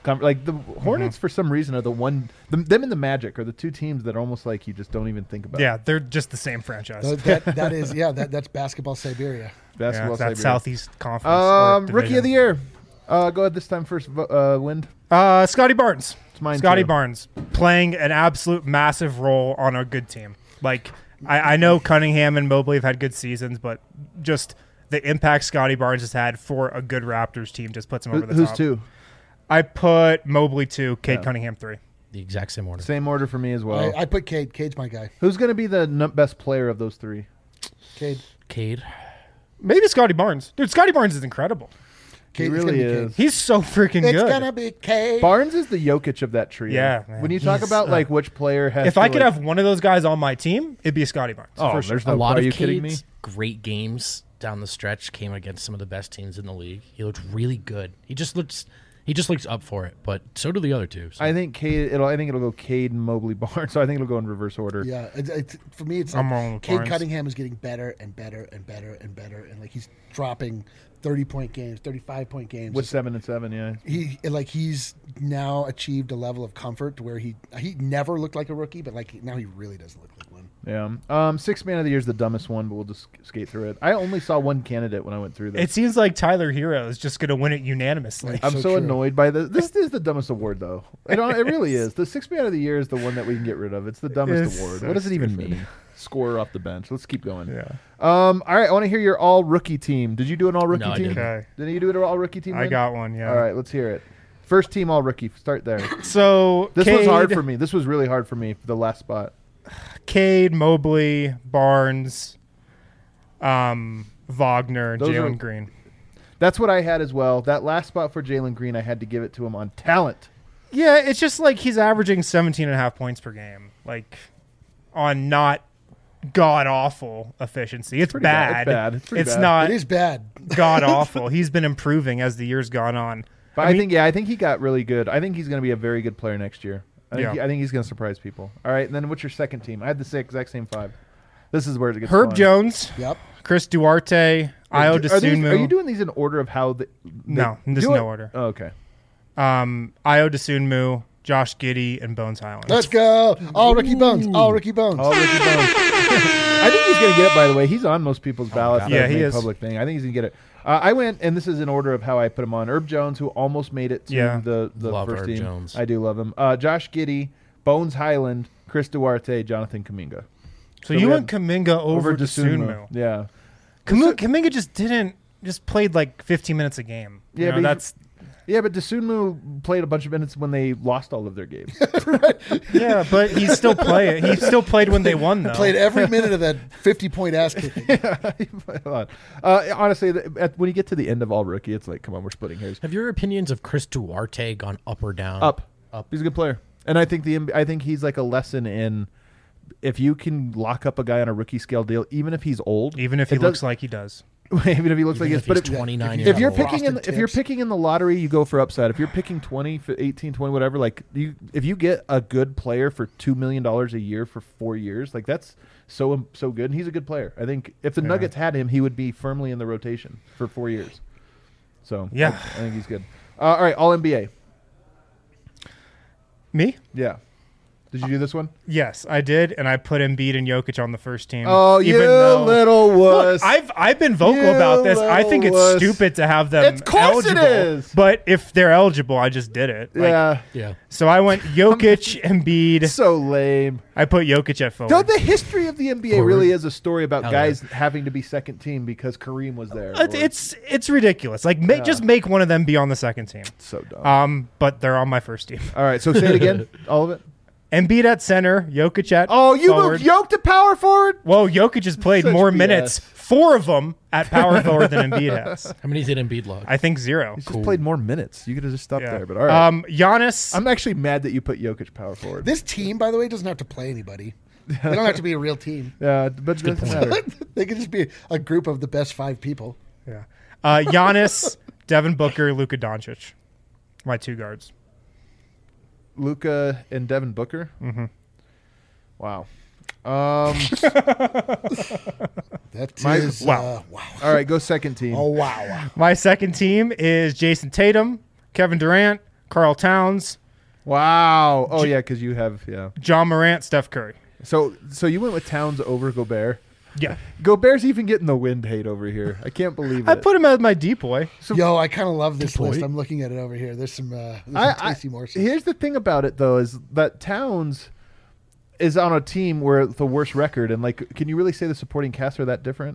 Like the Hornets, for some reason, are them and the Magic are the two teams that are almost like you just don't even think about. Yeah, they're just the same franchise. That's basketball Siberia. Basketball That Siberia. Southeast Conference. Rookie of the year. Go ahead this time first, Wind. Scotty Barnes. It's mine Scotty too. Barnes playing an absolute massive role on a good team. Like I know Cunningham and Mobley have had good seasons, but just the impact Scotty Barnes has had for a good Raptors team just puts him over the top. Who's two? I put Mobley 2, Cade Cunningham 3. The exact same order. Same order for me as well. I put Cade. Cade's my guy. Who's going to be the best player of those three? Cade. Maybe Scotty Barnes. Dude, Scotty Barnes is incredible. He really is. He's so freaking It's good. gonna be Cade. Barnes is the Jokic of that trio. Yeah, man. When you talk about like which player has. If I could have one of those guys on my team, it'd be Scotty Barnes. Oh, for sure. there's no. A lot Are of you kidding me? Cade's great games down the stretch came against some of the best teams in the league. He looked really good. He just looks up for it, but so do the other two. So. I think Cade. I think it'll go Cade, Mobley, Barnes. So I think it'll go in reverse order. Yeah, for me, it's I'm like wrong with Cade Barnes. Cunningham is getting better and better and better and better, and like he's dropping 30-point games, 35-point games. With 7 and 7, yeah. He's now achieved a level of comfort to where he never looked like a rookie, but like now he really doesn't look like one. Yeah. Sixth man of the year is the dumbest one, but we'll just skate through it. I only saw one candidate when I went through this. It seems like Tyler Hero is just going to win it unanimously. Right. I'm so so true. annoyed by this. This is the dumbest award, though. It really is. The sixth man of the year is the one that we can get rid of. It's the dumbest It's award. so What does it even stupid. mean? Scorer off the bench. Let's keep going. Yeah. All right. I want to hear your all rookie team. Did you do an all rookie No, I team? didn't. Okay. Didn't you do an all rookie team? I Lynn? got one, yeah. All right. Let's hear it. First team all rookie. Start there. So This was hard Cade- for me. This was really hard for me for the last spot. Cade, Mobley, Barnes, Wagner, Those are- Jalen Green. That's what I had as well. That last spot for Jalen Green, I had to give it to him on talent. Yeah, it's just like he's averaging 17.5 points per game. Like, on not god-awful efficiency. It's pretty bad. bad. It's bad. It's pretty It's bad. not It is bad. god-awful. He's been improving as the year's gone on. But I think he got really good. I think he's going to be a very good player next year. I think he's going to surprise people. All right, and then what's your second team? I had the exact same 5. This is where it gets Herb fun. Jones, Yep. Chris Duarte, Io DeSunmu. Are you doing these in order of how the No, there's do no it? order. Oh, okay. Io DeSunmu, Josh Giddey, and Bones Highland. Let's go. All Ricky Bones. All Ricky Bones. All Ricky Bones. I think he's going to get it, by the way. He's on most people's ballots. Yeah, That he made is. Public thing. I think he's going to get it. I went, and this is in order of how I put him on. Herb Jones, who almost made it to the Love first Herb team. Jones. I do love him. Josh Giddey, Bones Highland, Chris Duarte, Jonathan Kuminga. So you we went Kuminga over DeSunmu. Yeah. Kuminga just played like 15 minutes a game. Yeah, You know, but that's but DeSunmu played a bunch of minutes when they lost all of their games. yeah, but he's still playing. He still played when they won though. Played every minute of that 50-point ass kicking. Honestly, when you get to the end of all rookie, it's like, come on, we're splitting hairs. Have your opinions of Chris Duarte gone up or down? Up. He's a good player, and I think he's like a lesson in if you can lock up a guy on a rookie scale deal, even if he's old, even if he looks like he does. even if he looks Even like if but he's 29 if years you're old. picking in, Frosted if you're tips. picking in the lottery, you go for upside. If you're picking 20, 18, 20, whatever, like if you get a good player for $2 million a year for 4 years, like that's so good. And he's a good player. I think if the Nuggets had him, he would be firmly in the rotation for 4 years. So Yeah. I think he's good. All right, all NBA. Me? Yeah. Did you do this one? Yes, I did, and I put Embiid and Jokic on the first team. Oh, even you though- little wuss. Look, I've been vocal You about this. I think it's little wuss. stupid to have them Of course it eligible. is. But if they're eligible, I just did it. Like, Yeah. Yeah. So I went Jokic, Embiid. So lame. I put Jokic at forward. No, the history of the NBA Forward. really is a story about Hell guys having to be second team because Kareem was there. It's ridiculous. Like just make one of them be on the second team. So dumb. But they're on my first team. All right, so say it again. All of it. Embiid at center, Jokic at Oh, you forward. moved Yoke to power forward? Well, Jokic has played Such more BS. minutes, 4 of them at power forward than Embiid has. How many did Embiid log? I think 0. He's just played more minutes. You could have just stopped Yeah. there, but all right. Giannis. I'm actually mad that you put Jokic power forward. This team, by the way, doesn't have to play anybody. They don't have to be a real team. Yeah, but it doesn't matter. They can just be a group of the best 5 people. Yeah. Giannis, Devin Booker, Luka Doncic. My 2 guards. Luka and Devin Booker. Mm-hmm. Wow. That My- is wow. wow. All right, go second team. Oh wow. My second team is Jason Tatum, Kevin Durant, Karl Towns. Wow. Oh, yeah, because you have, John Morant, Steph Curry. So you went with Towns over Gobert? Yeah. Gobert's even getting the wind hate over here. I can't believe it. I put him as my deep boy. Yo, I kind of love this list. I'm looking at it over here. There's some tasty morsels. Here's the thing about it, though, is that Towns is on a team where the worst record. And, like, can you really say the supporting cast are that different?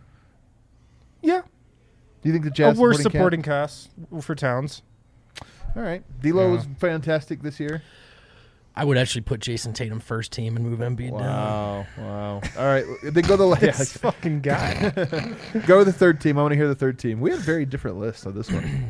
Yeah. Do you think the Jazz a worse supporting cast for Towns? All right. D'Lo was fantastic this year. I would actually put Jason Tatum first team and move Embiid down. Wow. All right. Then go the this fucking guy. Go the third team. I want to hear the third team. We have very different lists on this one.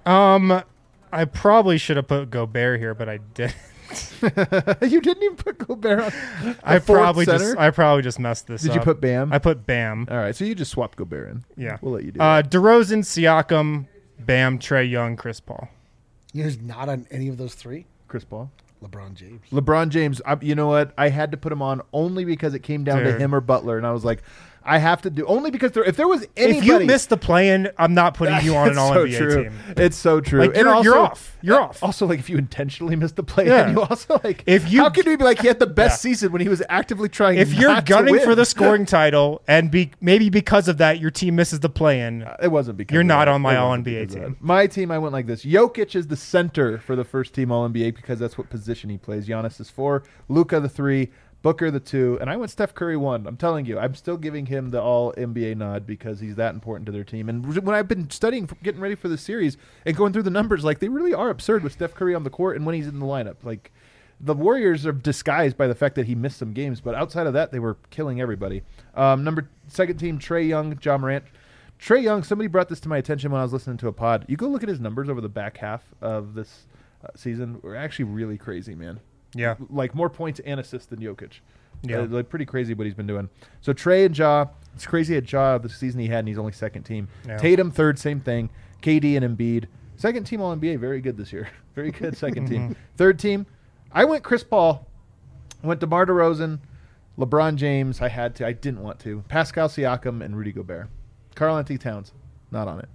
I probably should have put Gobert here, but I didn't. You didn't even put Gobert on. I probably just messed this up. Did you put Bam? I put Bam. All right. So you just swapped Gobert in. Yeah. We'll let you do that. DeRozan, Siakam, Bam, Trae Young, Chris Paul. Who's not on any of those three? Chris Paul. LeBron James. You know what? I had to put him on only because it came down to him or Butler, and I was like, I have to do only because if there was anybody. If you missed the play-in, I'm not putting you on an All-NBA team. It's so true. Like, you're off. You're off. Also, like if you intentionally missed the play-in, you also like. How could we be like he had the best season when he was actively trying? If you're gunning for the scoring title, and maybe because of that your team misses the play-in, it wasn't because you're not on my All-NBA team. My team, I went like this: Jokic is the center for the first team All-NBA because that's what position he plays. Giannis is 4, Luka the 3. Booker the 2, and I went Steph Curry 1. I'm telling you, I'm still giving him the All-NBA nod because he's that important to their team. And when I've been studying, getting ready for the series, and going through the numbers, like they really are absurd with Steph Curry on the court and when he's in the lineup. Like the Warriors are disguised by the fact that he missed some games, but outside of that, they were killing everybody. Second team, Trae Young, John Morant. Trae Young, somebody brought this to my attention when I was listening to a pod. You go look at his numbers over the back half of this season. We're actually really crazy, man. Yeah. Like more points and assists than Jokic. Yeah. Like pretty crazy what he's been doing. So Trae and Ja, it's crazy at Ja the season he had, and he's only second team. Yeah. Tatum third, same thing. KD and Embiid. Second team All-NBA, very good this year. Very good second team. Third team, I went Chris Paul. I went DeMar DeRozan, LeBron James. I had to. I didn't want to. Pascal Siakam and Rudy Gobert. Karl-Anthony Towns, not on it.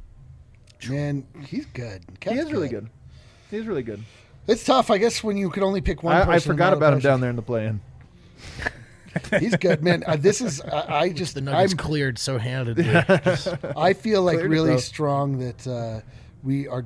Man, he's good. He is really good. He's really good. It's tough, I guess, when you could only pick one person. I forgot about him down there in the play-in. He's good, man. This is the Nuggets cleared so handedly. I feel like really strong that we are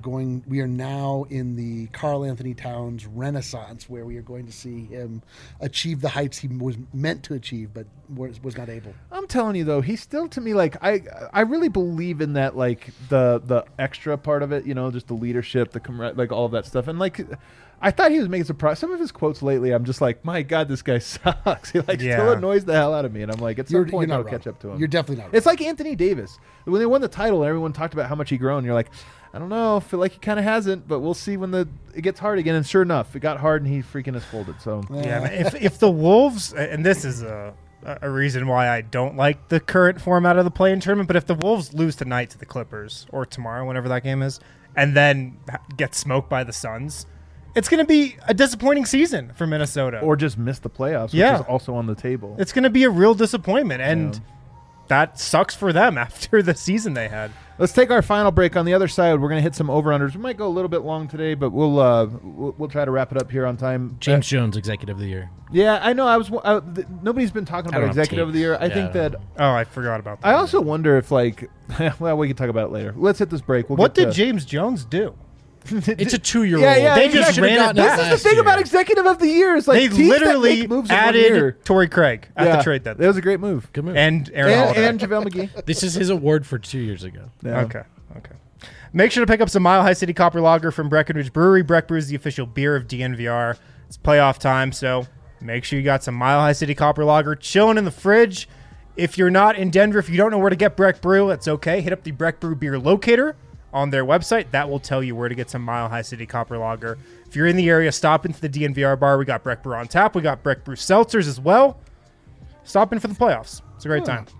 now in the Karl-Anthony Towns renaissance, where we are going to see him achieve the heights he was meant to achieve, but was not able. I'm telling you though, he's still to me like I really believe in that, like the extra part of it, just the leadership, like all of that stuff, and like. I thought he was making some of his quotes lately. I'm just like, my God, this guy sucks. He still annoys the hell out of me. And I'm like, at some point, I'll catch up to him. You're definitely not. It's like Anthony Davis. When they won the title, everyone talked about how much he grown. You're like, I don't know. I feel like he kind of hasn't, but we'll see when it gets hard again. And sure enough, it got hard and he freaking has folded. So yeah, if the Wolves, and this is a reason why I don't like the current format of the play-in tournament, but if the Wolves lose tonight to the Clippers or tomorrow, whenever that game is, and then get smoked by the Suns, it's going to be a disappointing season for Minnesota. Or just miss the playoffs, which is also on the table. It's going to be a real disappointment, and that sucks for them after the season they had. Let's take our final break. On the other side, we're going to hit some over-unders. We might go a little bit long today, but we'll try to wrap it up here on time. James Jones, Executive of the Year. Yeah, I know. Nobody's been talking about Executive of the Year. I think that... Oh, I forgot about that. I also wonder if, well, we can talk about it later. Let's hit this break. What did James Jones do? It's a 2-year-old. Yeah, they just ran it. This is the thing about Executive of the Year. Is like they literally added Torrey Craig at the trade deadline. That was a great move. Good move. And Aaron Holiday. And JaVale McGee. This is his award for 2 years ago. Yeah. Okay. Make sure to pick up some Mile High City Copper Lager from Breckenridge Brewery. Breck Brew is the official beer of DNVR. It's playoff time, so make sure you got some Mile High City Copper Lager chilling in the fridge. If you're not in Denver, if you don't know where to get Breck Brew, it's okay. Hit up the Breck Brew beer locator on their website. That will tell you where to get some Mile High City Copper Lager. If you're in the area, stop into the DNVR bar. We got Breck Brew on tap. We got Breck Brew seltzers as well. Stop in for the playoffs. It's a great time.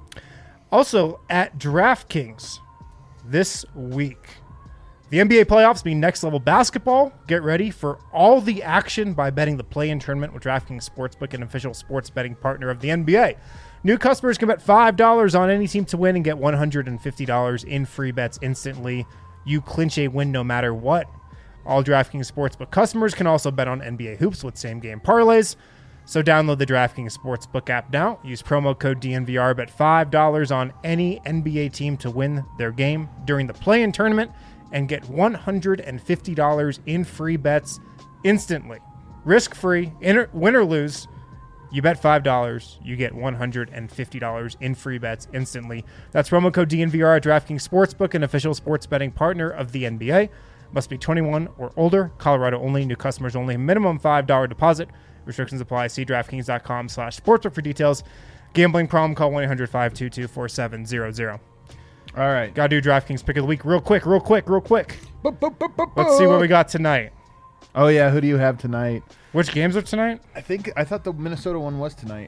Also, at DraftKings this week, the NBA playoffs mean next level basketball. Get ready for all the action by betting the play-in tournament with DraftKings Sportsbook, an official sports betting partner of the NBA. New customers can bet $5 on any team to win and get $150 in free bets instantly. You clinch a win no matter what. All DraftKings Sportsbook customers can also bet on NBA hoops with same-game parlays. So download the DraftKings Sportsbook app now. Use promo code DNVR. Bet $5 on any NBA team to win their game during the play-in tournament and get $150 in free bets instantly. Risk-free, win or lose. You bet $5, you get $150 in free bets instantly. That's promo code DNVR at DraftKings Sportsbook, an official sports betting partner of the NBA. Must be 21 or older. Colorado only. New customers only. Minimum $5 deposit. Restrictions apply. See DraftKings.com/sportsbook for details. Gambling problem? Call 1-800-522-4700. All right. Got to do DraftKings pick of the week real quick. Let's see what we got tonight. Oh, yeah. Who do you have tonight? Which games are tonight? I thought the Minnesota one was tonight.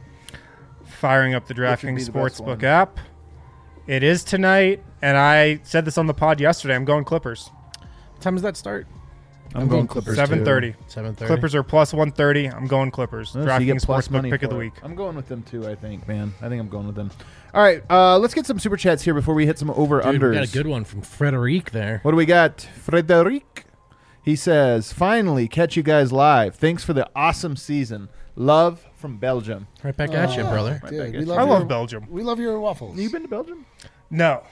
Firing up the DraftKings Sportsbook app. It is tonight, and I said this on the pod yesterday. I'm going Clippers. What time does that start? I'm going Clippers 7:30. 7:30. Clippers are plus 130. I'm going Clippers. Oh, so DraftKings Sportsbook pick of the week. I'm going with them too, I think, man. I think I'm going with them. All right, let's get some super chats here before we hit some over-unders. We got a good one from Frederic there. What do we got? Frederic. He says, finally catch you guys live. Thanks for the awesome season. Love from Belgium. Right back at you, brother. Dude, I love Belgium. We love your waffles. You been to Belgium? No.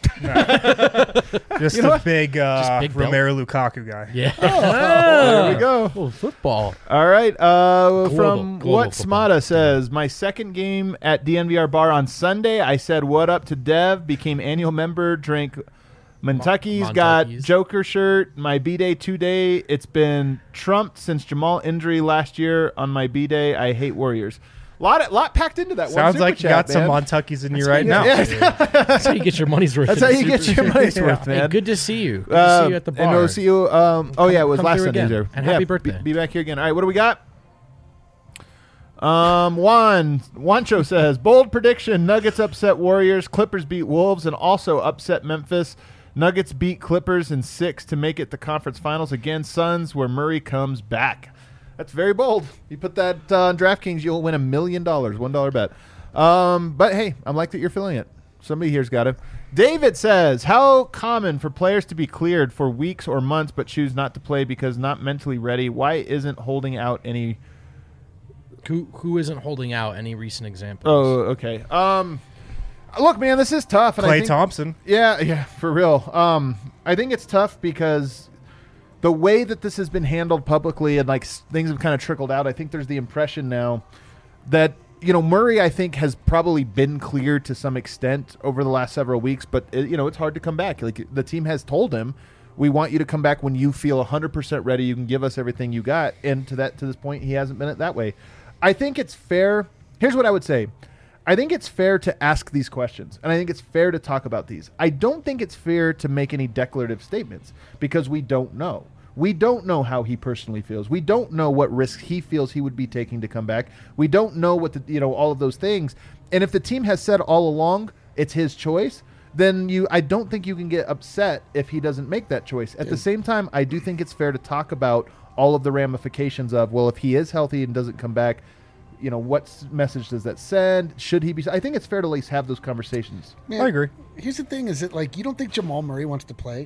Just a big Romelu Lukaku guy. Yeah. There we go. Oh, football. All right. From Global what football. Smada says, my second game at DNVR Bar on Sunday, I said what up to Dev, became annual member, drank Montucky's, got Joker shirt, my B-Day 2-day. It's been trumped since Jamal injury last year on my B-Day. I hate Warriors. Lot packed into that. Sounds one like you super got chat, some man. Montucky's in you right now. That's how you get your money's worth. That's how you get your money's worth, man. Hey, good to see you. Good to see you at the bar. And we'll see you. It was come last through Sunday again. there. And happy birthday. Be back here again. All right, what do we got? Juancho says, bold prediction, Nuggets upset Warriors, Clippers beat Wolves, and also upset Memphis. Nuggets beat Clippers in 6 to make it the conference finals. Again, Suns, where Murray comes back. That's very bold. You put that on DraftKings, you'll win $1 million, $1 bet. But hey, I'm like that you're feeling it. Somebody here's got it. David says, how common for players to be cleared for weeks or months but choose not to play because not mentally ready? Why isn't holding out any... Who isn't holding out any recent examples? Oh, okay. Look, man, this is tough. And Klay Thompson. Yeah, for real. I think it's tough because the way that this has been handled publicly and like things have kind of trickled out, I think there's the impression now that, Murray, I think, has probably been cleared to some extent over the last several weeks, but, it's hard to come back. Like, the team has told him, we want you to come back when you feel 100% ready. You can give us everything you got. And to this point, he hasn't been that way. I think it's fair. Here's what I would say. I think it's fair to ask these questions, and I think it's fair to talk about these. I don't think it's fair to make any declarative statements because we don't know. We don't know how he personally feels. We don't know what risks he feels he would be taking to come back. We don't know what all of those things. And if the team has said all along it's his choice, then I don't think you can get upset if he doesn't make that choice. At the same time, I do think it's fair to talk about all of the ramifications of, well, if he is healthy and doesn't come back, what message does that send? Should he be? I think it's fair to at least have those conversations. Man, I agree. Here's the thing: is it like you don't think Jamal Murray wants to play?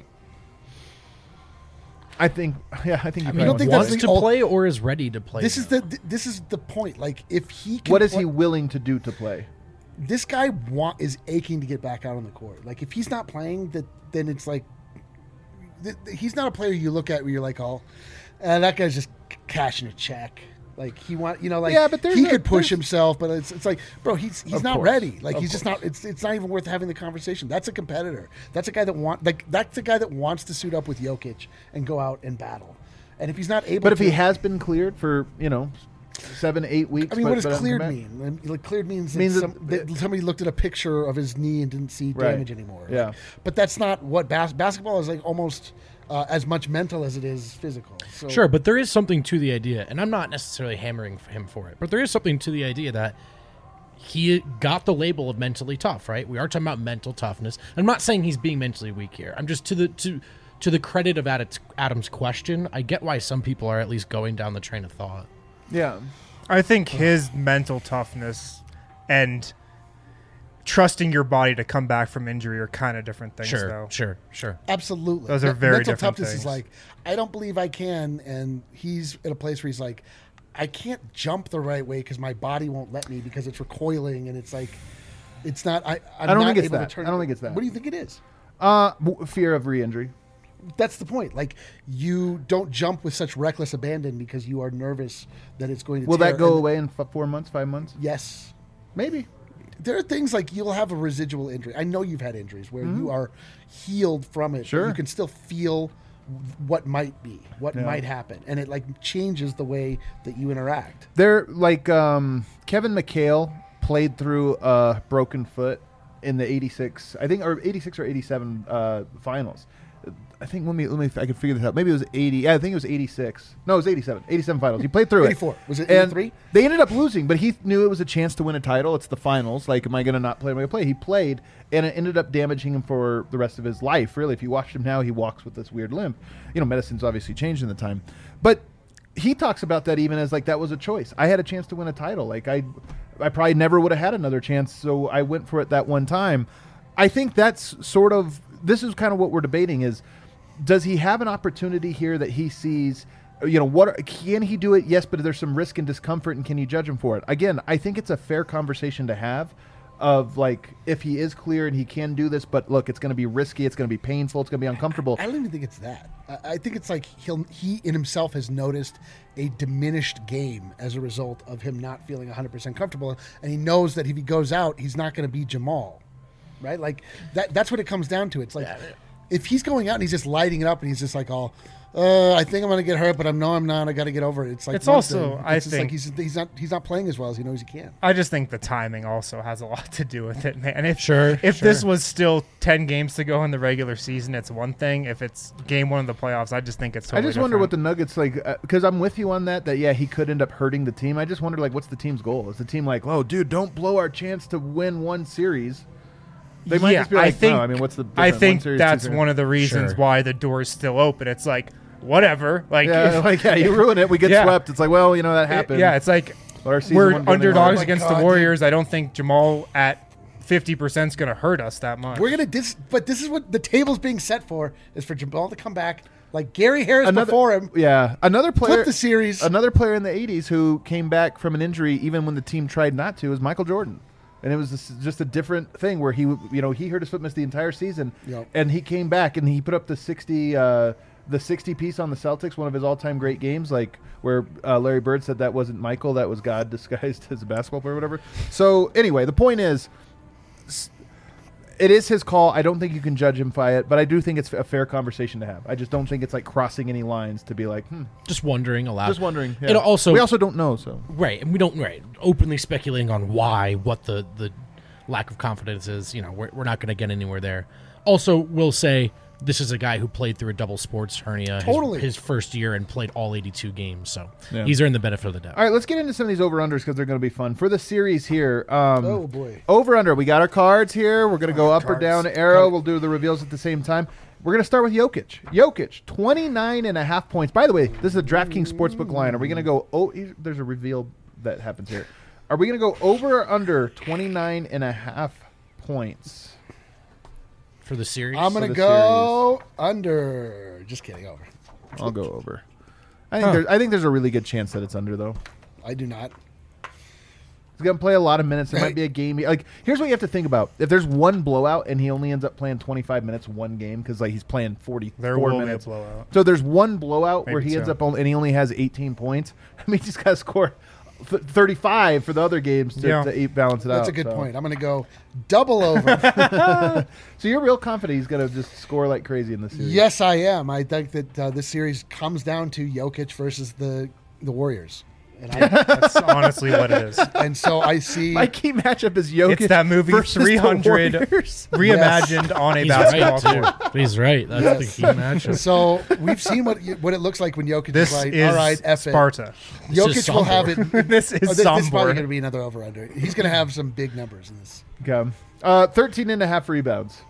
I think he you don't think wants that's to play or is ready to play. This is the point. Like if he can what is he willing to do to play? This guy is aching to get back out on the court. Like if he's not playing, then it's like he's not a player you look at where you're like, oh, that guy's just cashing a check. Like he but he could push himself, but it's like, bro, he's not ready. Like he's just not. It's not even worth having the conversation. That's a competitor. That's a guy that that's a guy that wants to suit up with Jokic and go out and battle. And if he's not able, but if he has been cleared for 7-8 weeks, I mean, what does cleared mean? Like cleared means that somebody looked at a picture of his knee and didn't see damage anymore. Yeah, but that's not what basketball is like. Almost. As much mental as it is physical. So. Sure, but there is something to the idea, and I'm not necessarily hammering him for it, but there is something to the idea that he got the label of mentally tough, right? We are talking about mental toughness. I'm not saying he's being mentally weak here. I'm just to the credit of Adam's question, I get why some people are at least going down the train of thought. Yeah. I think his mental toughness and trusting your body to come back from injury are kind of different things, though. Sure. Absolutely. Those are very mental different toughness things. is like, I don't believe I can, and he's in a place where he's like, I can't jump the right way because my body won't let me because it's recoiling, and it's like, it's not. I'm I don't not think it's able that. to turn. I don't think it's that. What do you think it is? Fear of re-injury. That's the point. Like, you don't jump with such reckless abandon because you are nervous that it's going to. Will tear. that go And away in 4 months, 5 months? Yes. Maybe. There are things like you'll have a residual injury. I know you've had injuries where you are healed from it. But Sure. you can still feel what might be, what might happen, and it like changes the way that you interact. They're like Kevin McHale played through a broken foot in the 86, I think, or 86 or 87 finals. I think let me I can figure this out. Maybe it was 80. Yeah, I think it was 86. No, it was 87. 87 finals. He played through 84. Was it And 83? They ended up losing, but he knew it was a chance to win a title. It's the finals. Like, am I going to not play? Am I going to play? He played, and it ended up damaging him for the rest of his life. Really, if you watch him now, he walks with this weird limp. You know, medicine's obviously changed in the time, but he talks about that even as like that was a choice. I had a chance to win a title. Like I probably never would have had another chance, so I went for it that one time. I think that's sort of, this is kind of what we're debating is, does he have an opportunity here that he sees, you know, what can he do it? Yes, but there's some risk and discomfort, and can you judge him for it? Again, I think it's a fair conversation to have of like, if he is clear and he can do this, but look, it's going to be risky, it's going to be painful, it's going to be uncomfortable. I don't even think it's that. I think it's like he in himself has noticed a diminished game as a result of him not feeling 100% comfortable, and he knows that if he goes out, he's not going to be Jamal, right? Like that's what it comes down to. It's like if he's going out and he's just lighting it up and he's just like all, I think I'm going to get hurt, but I'm not. I got to get over it. It's like It's also, I it's just think- like he's not playing as well as he knows he can. I just think the timing also has a lot to do with it, man. If Sure. this was still 10 games to go in the regular season, it's one thing. If it's game one of the playoffs, I just think it's totally I just wonder what the different. Nuggets like, because I'm with you on that yeah, he could end up hurting the team. I just wonder like, what's the team's goal? Is the team like, oh, dude, don't blow our chance to win one series? They might just be like, no, I mean, what's the I difference? think One series, that's two series. one of the reasons Sure. why the door is still open. It's like, whatever. Like, Yeah, like, yeah, you ruin it. We get Yeah. swept. It's like, well, you know, that happened. yeah, it's like Our season we're won't go anywhere. underdogs Oh my against God, the dude. Warriors. I don't think Jamal at 50% is going to hurt us that much. We're gonna but this is what the table's being set for, is for Jamal to come back like Gary Harris before him. Yeah, another player. Flip the series. Another player in the '80s who came back from an injury, even when the team tried not to, is Michael Jordan. And it was just a different thing where he hurt his foot, missed the entire season, Yep. and he came back and he put up the 60 piece on the Celtics, one of his all-time great games, like where Larry Bird said that wasn't Michael, that was God disguised as a basketball player or whatever. So anyway, the point is, it is his call. I don't think you can judge him by it, but I do think it's a fair conversation to have. I just don't think it's like crossing any lines to be like, Just wondering aloud. just wondering. Yeah. And also, we also don't know, so. right, and we don't openly speculating on what the lack of confidence is. You know, we're not going to get anywhere there. Also, we'll say this is a guy who played through a double sports hernia Totally. his first year and played all 82 games, so Yeah. he's earned the benefit of the doubt. All right, let's get into some of these over-unders because they're going to be fun. For the series here, Oh boy. over-under, we got our cards here. We're going to go up or cards. down arrow. We'll do the reveals at the same time. We're going to start with Jokic. Jokic, 29.5 points. By the way, this is a DraftKings Sportsbook line. Are we going to go, there's a reveal that happens here. Are we going to go over or under 29.5 points? For the series, I'm gonna the go under. Just kidding. Over. I'll go over. I think there's a really good chance that it's under, though. I do not. He's going to play a lot of minutes. There might be a game. Like, here's what you have to think about. If there's one blowout and he only ends up playing 25 minutes one game because like he's playing 44 There will be a minutes. blowout. So there's one blowout where Maybe he ends so. up and he only has 18 points. I mean, he's got to score 35 for the other games to balance it out. That's a good so. point. I'm gonna go double over. So you're real confident he's going to just score like crazy in this series? Yes, I am. I think that this series comes down to Jokic versus the Warriors, That's honestly what it is. and so I see. My key matchup is Jokic. It's that movie versus the 300 Warriors. reimagined on a he's basketball right, court. too. He's right. That's Yes. the key matchup. So we've seen what it looks like when Jokic This is like, is all right, F it. Sparta. This is Jokic will have it. This is This is probably Sombor. going to be another over/under. He's going to have some big numbers in this. Okay. 13.5 rebounds.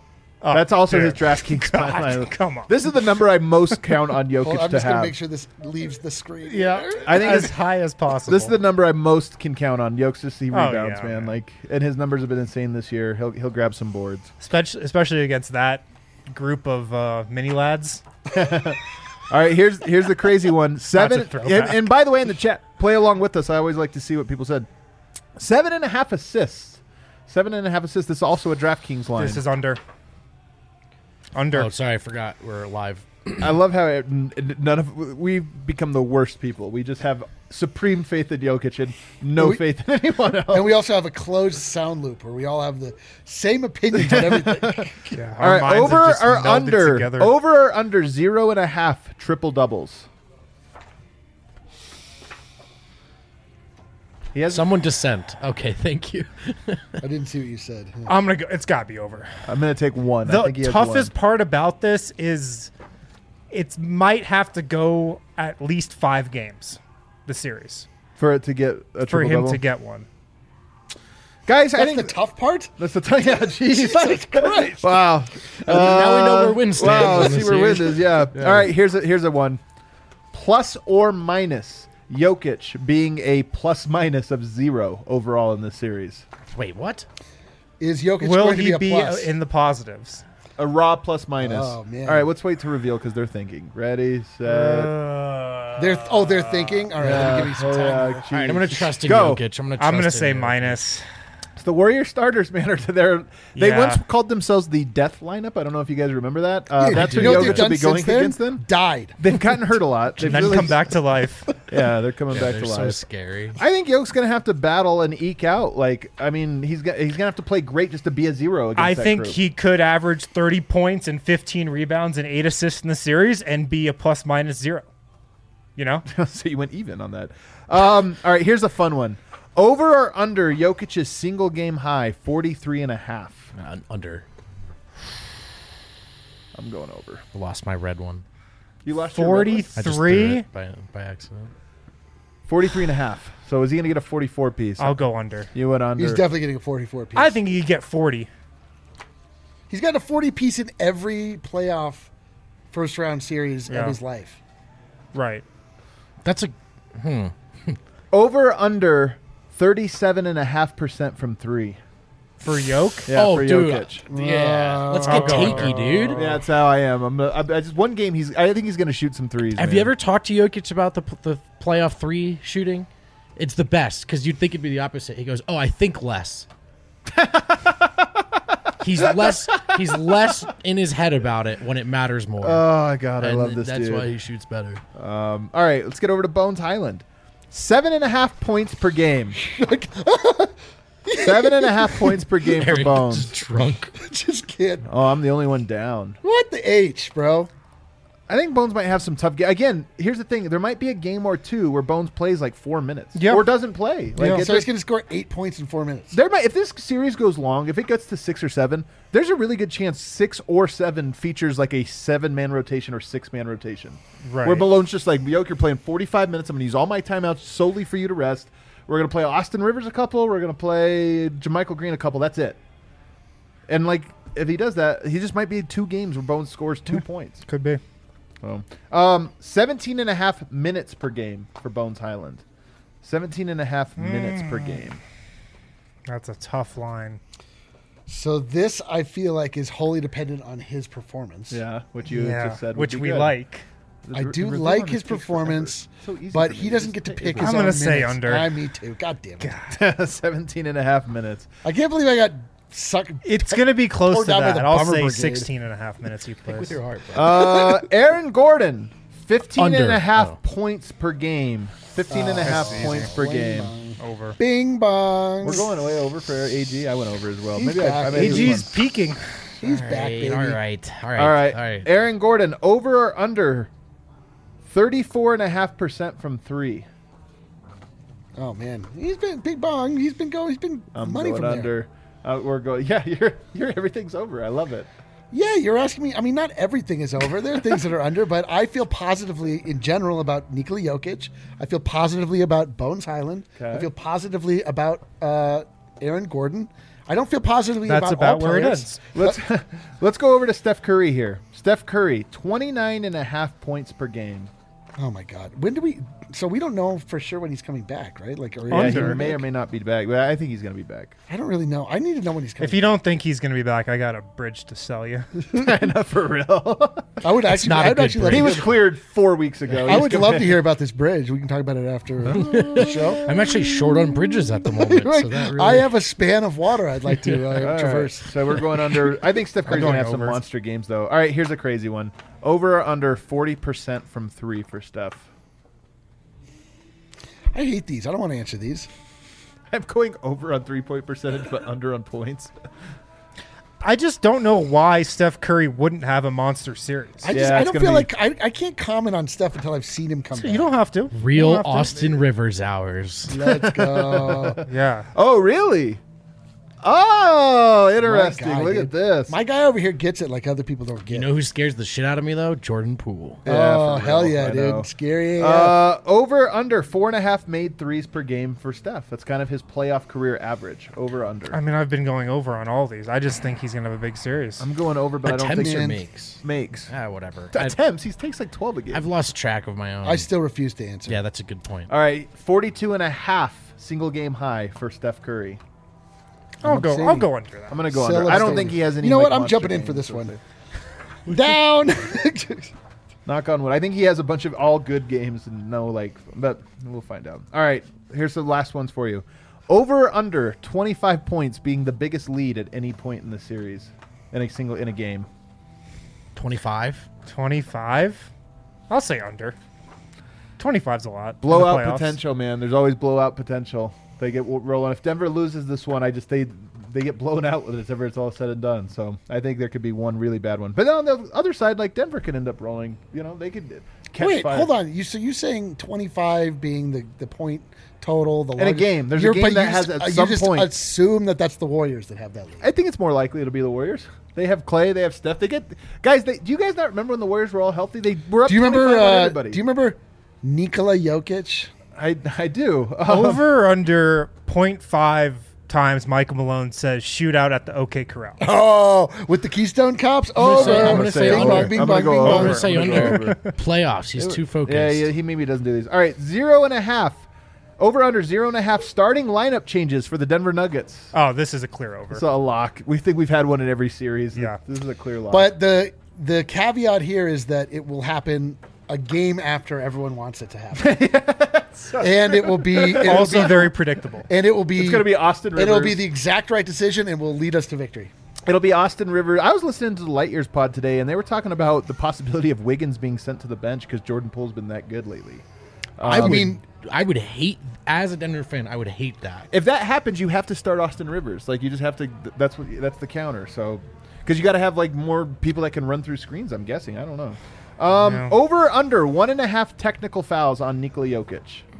That's also dude. his DraftKings line. Come on. This is the number I most count on Jokic Well, I'm to just going have. to make sure this leaves the screen. Yeah, I think as it's- high as possible. This is the number I most can count on. Jokic to see Oh, rebounds, yeah, man. man. Like, and his numbers have been insane this year. He'll grab some boards. especially against that group of mini lads. All right, here's the crazy one. Seven. throwback. And by the way, in the chat, play along with us. I always like to see what people said. 7.5 assists. 7.5 assists. This is also a DraftKings line. This is under. Under. Oh, sorry, I forgot we're live. I love how we've become the worst people. We just have supreme faith in Jokic and no faith in anyone else. And we also have a closed sound loop where we all have the same opinions on everything. Yeah, All right, minds over have just or melded under? together. Over or under 0.5 triple doubles? He has. Someone dissent. Okay, thank you. I didn't see what you said. I'm gonna go. It's got to be over. I'm gonna take one. I The think he has toughest one. part about this is it might have to go at least 5 games, the series, For it to get a for triple him double. to get one. Guys, I That's think the tough part? that's the yeah. Jesus Christ. Wow. Now we know where win stands Wow. in See this where win series. is. Yeah. All right. Here's a one. Plus or minus Jokic being a plus minus of 0 overall in this series. Wait, what? Is Jokic Will going to he be be a plus? in the positives? A raw plus minus. Oh, man. All right. Let's wait to reveal because they're thinking. Ready, set. They're thinking? All right, let me give you some time. yeah, here. All right, I'm going to trust in Go. Jokic. I'm gonna trust say in Jokic. minus. The Warrior starters, man, they Yeah. once called themselves the Death Lineup. I don't know if you guys remember that. Yeah, That's you who know what Jokic they've will done be going since then? against them. Died. They've gotten hurt a lot. They've And then really- come back to life. Yeah, they're coming back They're to so life. scary. I think Jokic's going to have to battle and eke out. Like, I mean, he's going to have to play great just to be a 0 against I that think group. he could average 30 points and 15 rebounds and 8 assists in the series and be a plus minus 0. You know? So you went even on that. All right, here's a fun one. Over or under Jokic's single game high, 43.5. Under. I'm going over. I lost my red one. You lost your red one? I just threw 43. it by accident. 43.5. So is he going to get a 44 piece? I'll go under. You went under. He's definitely getting a 44 piece. I think he could get 40. He's got a 40 piece in every playoff first round series Yeah. of his life. Right. That's a. Over or under 37.5% from 3. For Yoke? Yeah, oh, for dude. Jokic. Yeah. Let's I'll get go takey, under. dude. Yeah, that's how I am. I just one game. I think he's going to shoot some threes. Have man. you ever talked to Jokic about the playoff 3 shooting? It's the best because you'd think it'd be the opposite. He goes, "Oh, I think less." He's less in his head about it when it matters more. Oh God, I And love this That's dude. why he shoots better. All right, let's get over to Bones Highland. 7.5 points per game. 7.5 points per game for Eric Bones. just drunk. Just kidding. Oh, I'm the only one down. What the H, bro? I think Bones might have some tough games. Again, here's the thing. There might be a game or two where Bones plays like 4 minutes. Yeah. Or doesn't play. Like, So he's going to score 8 points in 4 minutes. if this series goes long, if it gets to 6 or 7, there's a really good chance 6 or 7 features like a 7-man rotation or 6-man rotation. Right. Where Malone's just like, Yoke, you're playing 45 minutes. I'm going to use all my timeouts solely for you to rest. We're going to play Austin Rivers a couple. We're going to play JaMychal Green a couple. That's it. And like, if he does that, he just might be 2 games where Bones scores 2 points. Could be. So, 17.5 minutes per game for Bones Highland. 17.5 minutes per game. That's a tough line. So this, I feel like, is wholly dependent on his performance. Yeah, which you just said would which be we good. like. I do Review like on his picks forever. performance, So easy but for he me. doesn't get to pick his I'm own gonna say minutes. under. Me too. God damn it. 17.5 minutes. I can't believe I got sucked. It's going to be close Poured to down by that. the I'll Bummer say Brigade. 16 and a half minutes he plays. With your heart, bro. Aaron Gordon, 15.5 Under. points per game. 15.5 points per game. Over. Bing bong. We're going way over for AG. I went over as well. He's Maybe back. I made this AG's one. peaking. He's back, baby. All right. All right. Aaron Gordon, over or under 34.5% from 3. Oh man, he's been big bong. He's been going. He's been I'm money going from under. there. We're going. Yeah, you're everything's over. I love it. Yeah, you're asking me. I mean, not everything is over. There are things that are under, but I feel positively in general about Nikola Jokic. I feel positively about Bones Highland. Okay. I feel positively about Aaron Gordon. I don't feel positively That's about about where it players. ends. Let's go over to Steph Curry here. Steph Curry, 29.5 points per game. Oh my God! When do we? So we don't know for sure when he's coming back, right? Like, or Yeah, he Under. may or may not be back, but I think he's going to be back. I don't really know. I need to know when he's coming. If you don't think he's going to be back, I got a bridge to sell you. Not for real. I would actually. not a I would good actually love break. He to was hear- cleared 4 weeks ago. I would love to hear about this bridge. We can talk about it after the show. I'm actually short on bridges at the moment. Right. So that really, I have a span of water I'd like to All right, traverse. so we're going under. I think Steph Curry's going to going have some over. monster games, though. All right, here's a crazy one. Over or under 40% from 3 for Steph. I hate these. I don't want to answer these. I'm going over on 3-point percentage, but under on points. I just don't know why Steph Curry wouldn't have a monster series. I Yeah, it's don't gonna feel be- like I can't comment on stuff until I've seen him come back. You don't have to. real You don't have to. Austin Rivers hours. Let's go. Yeah. Oh, really? Oh, interesting. My guy, Look dude. at this. My guy over here gets it like other people don't get You it. know who scares the shit out of me though? Jordan Poole. Yeah, Oh, for hell real. yeah, I know. dude. Scary AF. Over under 4.5 made threes per game for Steph. That's kind of his playoff career average. Over under. I mean, I've been going over on all these. I just think he's going to have a big series. I'm going over, but I don't Attempts think or Man. makes? makes. Ah, whatever. Attempts. He takes like 12 a game. I've lost track of my own. I still refuse to answer. yeah, that's a good point. All right, 42.5 single game high for Steph Curry. I'll go under that. I'm going to go Still under. I don't abstaining. think he has any. You know like, what? I'm monster jumping in for games this or one. anything. Down. Knock on wood. I think he has a bunch of all good games and no like, but we'll find out. All right, here's the last ones for you. Over or under 25 points being the biggest lead at any point in the series in a game. 25. 25? I'll say under. 25's a lot. in the Blowout playoffs. potential, man. There's always blowout potential. They get rolling. If Denver loses this one, they get blown out with it whenever it's all said and done. So I think there could be one really bad one. But then on the other side, like Denver could end up rolling. You know, they could catch Wait, fire. hold on. You saying 25 being the point total? The In a largest- game. There's a You're- game but that you has just- at you some just point. assume that's the Warriors that have that lead. I think it's more likely it'll be the Warriors. They have Clay. They have Steph. They get guys. Do you guys not remember when the Warriors were all healthy? They were up. Do you 25 remember? on everybody. Do you remember Nikola Jokic? I do. Over or under 0.5 times Michael Malone says shootout at the OK Corral. Oh, with the Keystone Cops. Over. I'm gonna say Bing under. bong, bing I'm bong, gonna go bing over. I'm bong. going to say I'm gonna under. go Playoffs. He's too focused. Yeah, he maybe doesn't do these. All right, 0.5. Over under 0.5 starting lineup changes for the Denver Nuggets. Oh, this is a clear over. It's a lock. We think we've had one in every series. Yeah. This is a clear lock. But the caveat here is that it will happen a game after everyone wants it to happen. And it will be also very predictable. and it will be it's going to be Austin Rivers. It'll be the exact right decision and will lead us to victory. It'll be Austin Rivers. I was listening to the Light Years pod today, and they were talking about the possibility of Wiggins being sent to the bench because Jordan Poole's been that good lately. I mean, I would hate, as a Denver fan, I would hate that. If that happens, you have to start Austin Rivers. Like you just have to. That's the counter. So because you got to have like more people that can run through screens. I'm guessing. I don't know. Yeah. Over under 1.5 technical fouls on Nikola Jokic.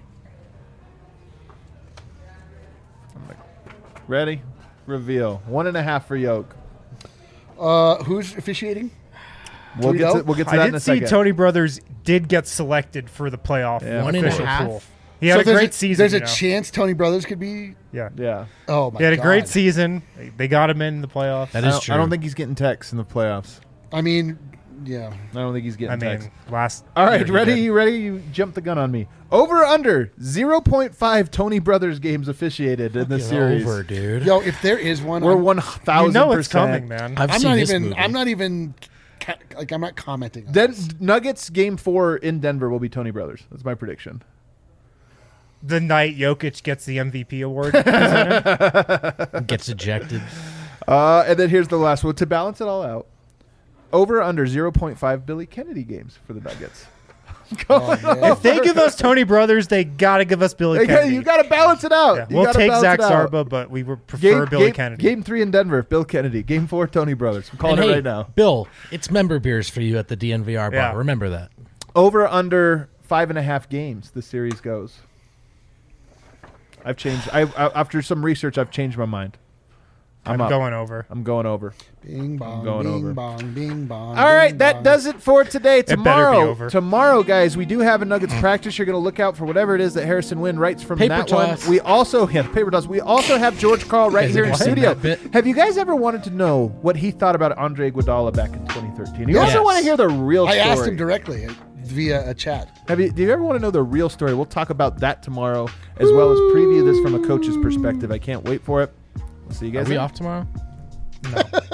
Ready? Reveal. 1.5 for Yoke. who's officiating? We'll get to that I in did a see second. Tony Brothers did get selected for the playoff Yeah. One and a official half? pool. He had a there's great season. There's a you know. chance Tony Brothers could be. Yeah. Yeah. Oh my! He had a God. great season. They got him in the playoffs. That I is don't, true. I don't think he's getting texts in the playoffs. I mean, yeah. I don't think he's getting I mean, texts. last. All right, year he ready? did. You ready? You jumped the gun on me. Over or under 0.5 Tony Brothers games officiated in the Get series. over, dude. Yo, if there is one, We're I'm- 1,000%. You know it's coming, man. I've I'm seen not this even. movie. I'm not even. I'm not commenting. On Then this. Nuggets game 4 in Denver will be Tony Brothers. That's my prediction. The night Jokic gets the MVP award. Gets ejected. And then here's the last one to balance it all out. Over or under 0.5 Billy Kennedy games for the Nuggets. Oh, man. if they give us Tony Brothers, they got to give us Billy Kennedy. You got to balance it out. Yeah, You we'll gotta take balance Zach it out. Zarba, but we would prefer Billy Kennedy. Game 3 in Denver, Bill Kennedy. Game 4, Tony Brothers. I'm calling And it hey, right now. Bill, it's member beers for you at the DNVR bar. Yeah. Remember that. Over or under 5.5 games the series goes. I've changed. After some research, I've changed my mind. I'm going over. I'm going over. Bing bong, going bing over. bong, bing bong. All right, bing that bong. does it for today. better be over. Tomorrow, guys, we do have a Nuggets practice. You're going to look out for whatever it is that Harrison Wynn writes from Paper that toss. one. We also paper toss. We also have George Carl right here in What? studio. That bit. Have you guys ever wanted to know what he thought about Andre Iguodala back in 2013? You Yes. also want to hear the real story. I asked him directly via a chat. Do you ever want to know the real story? We'll talk about that tomorrow, as well as preview this from a coach's perspective. I can't wait for it. We'll see you guys. Are we off tomorrow? No.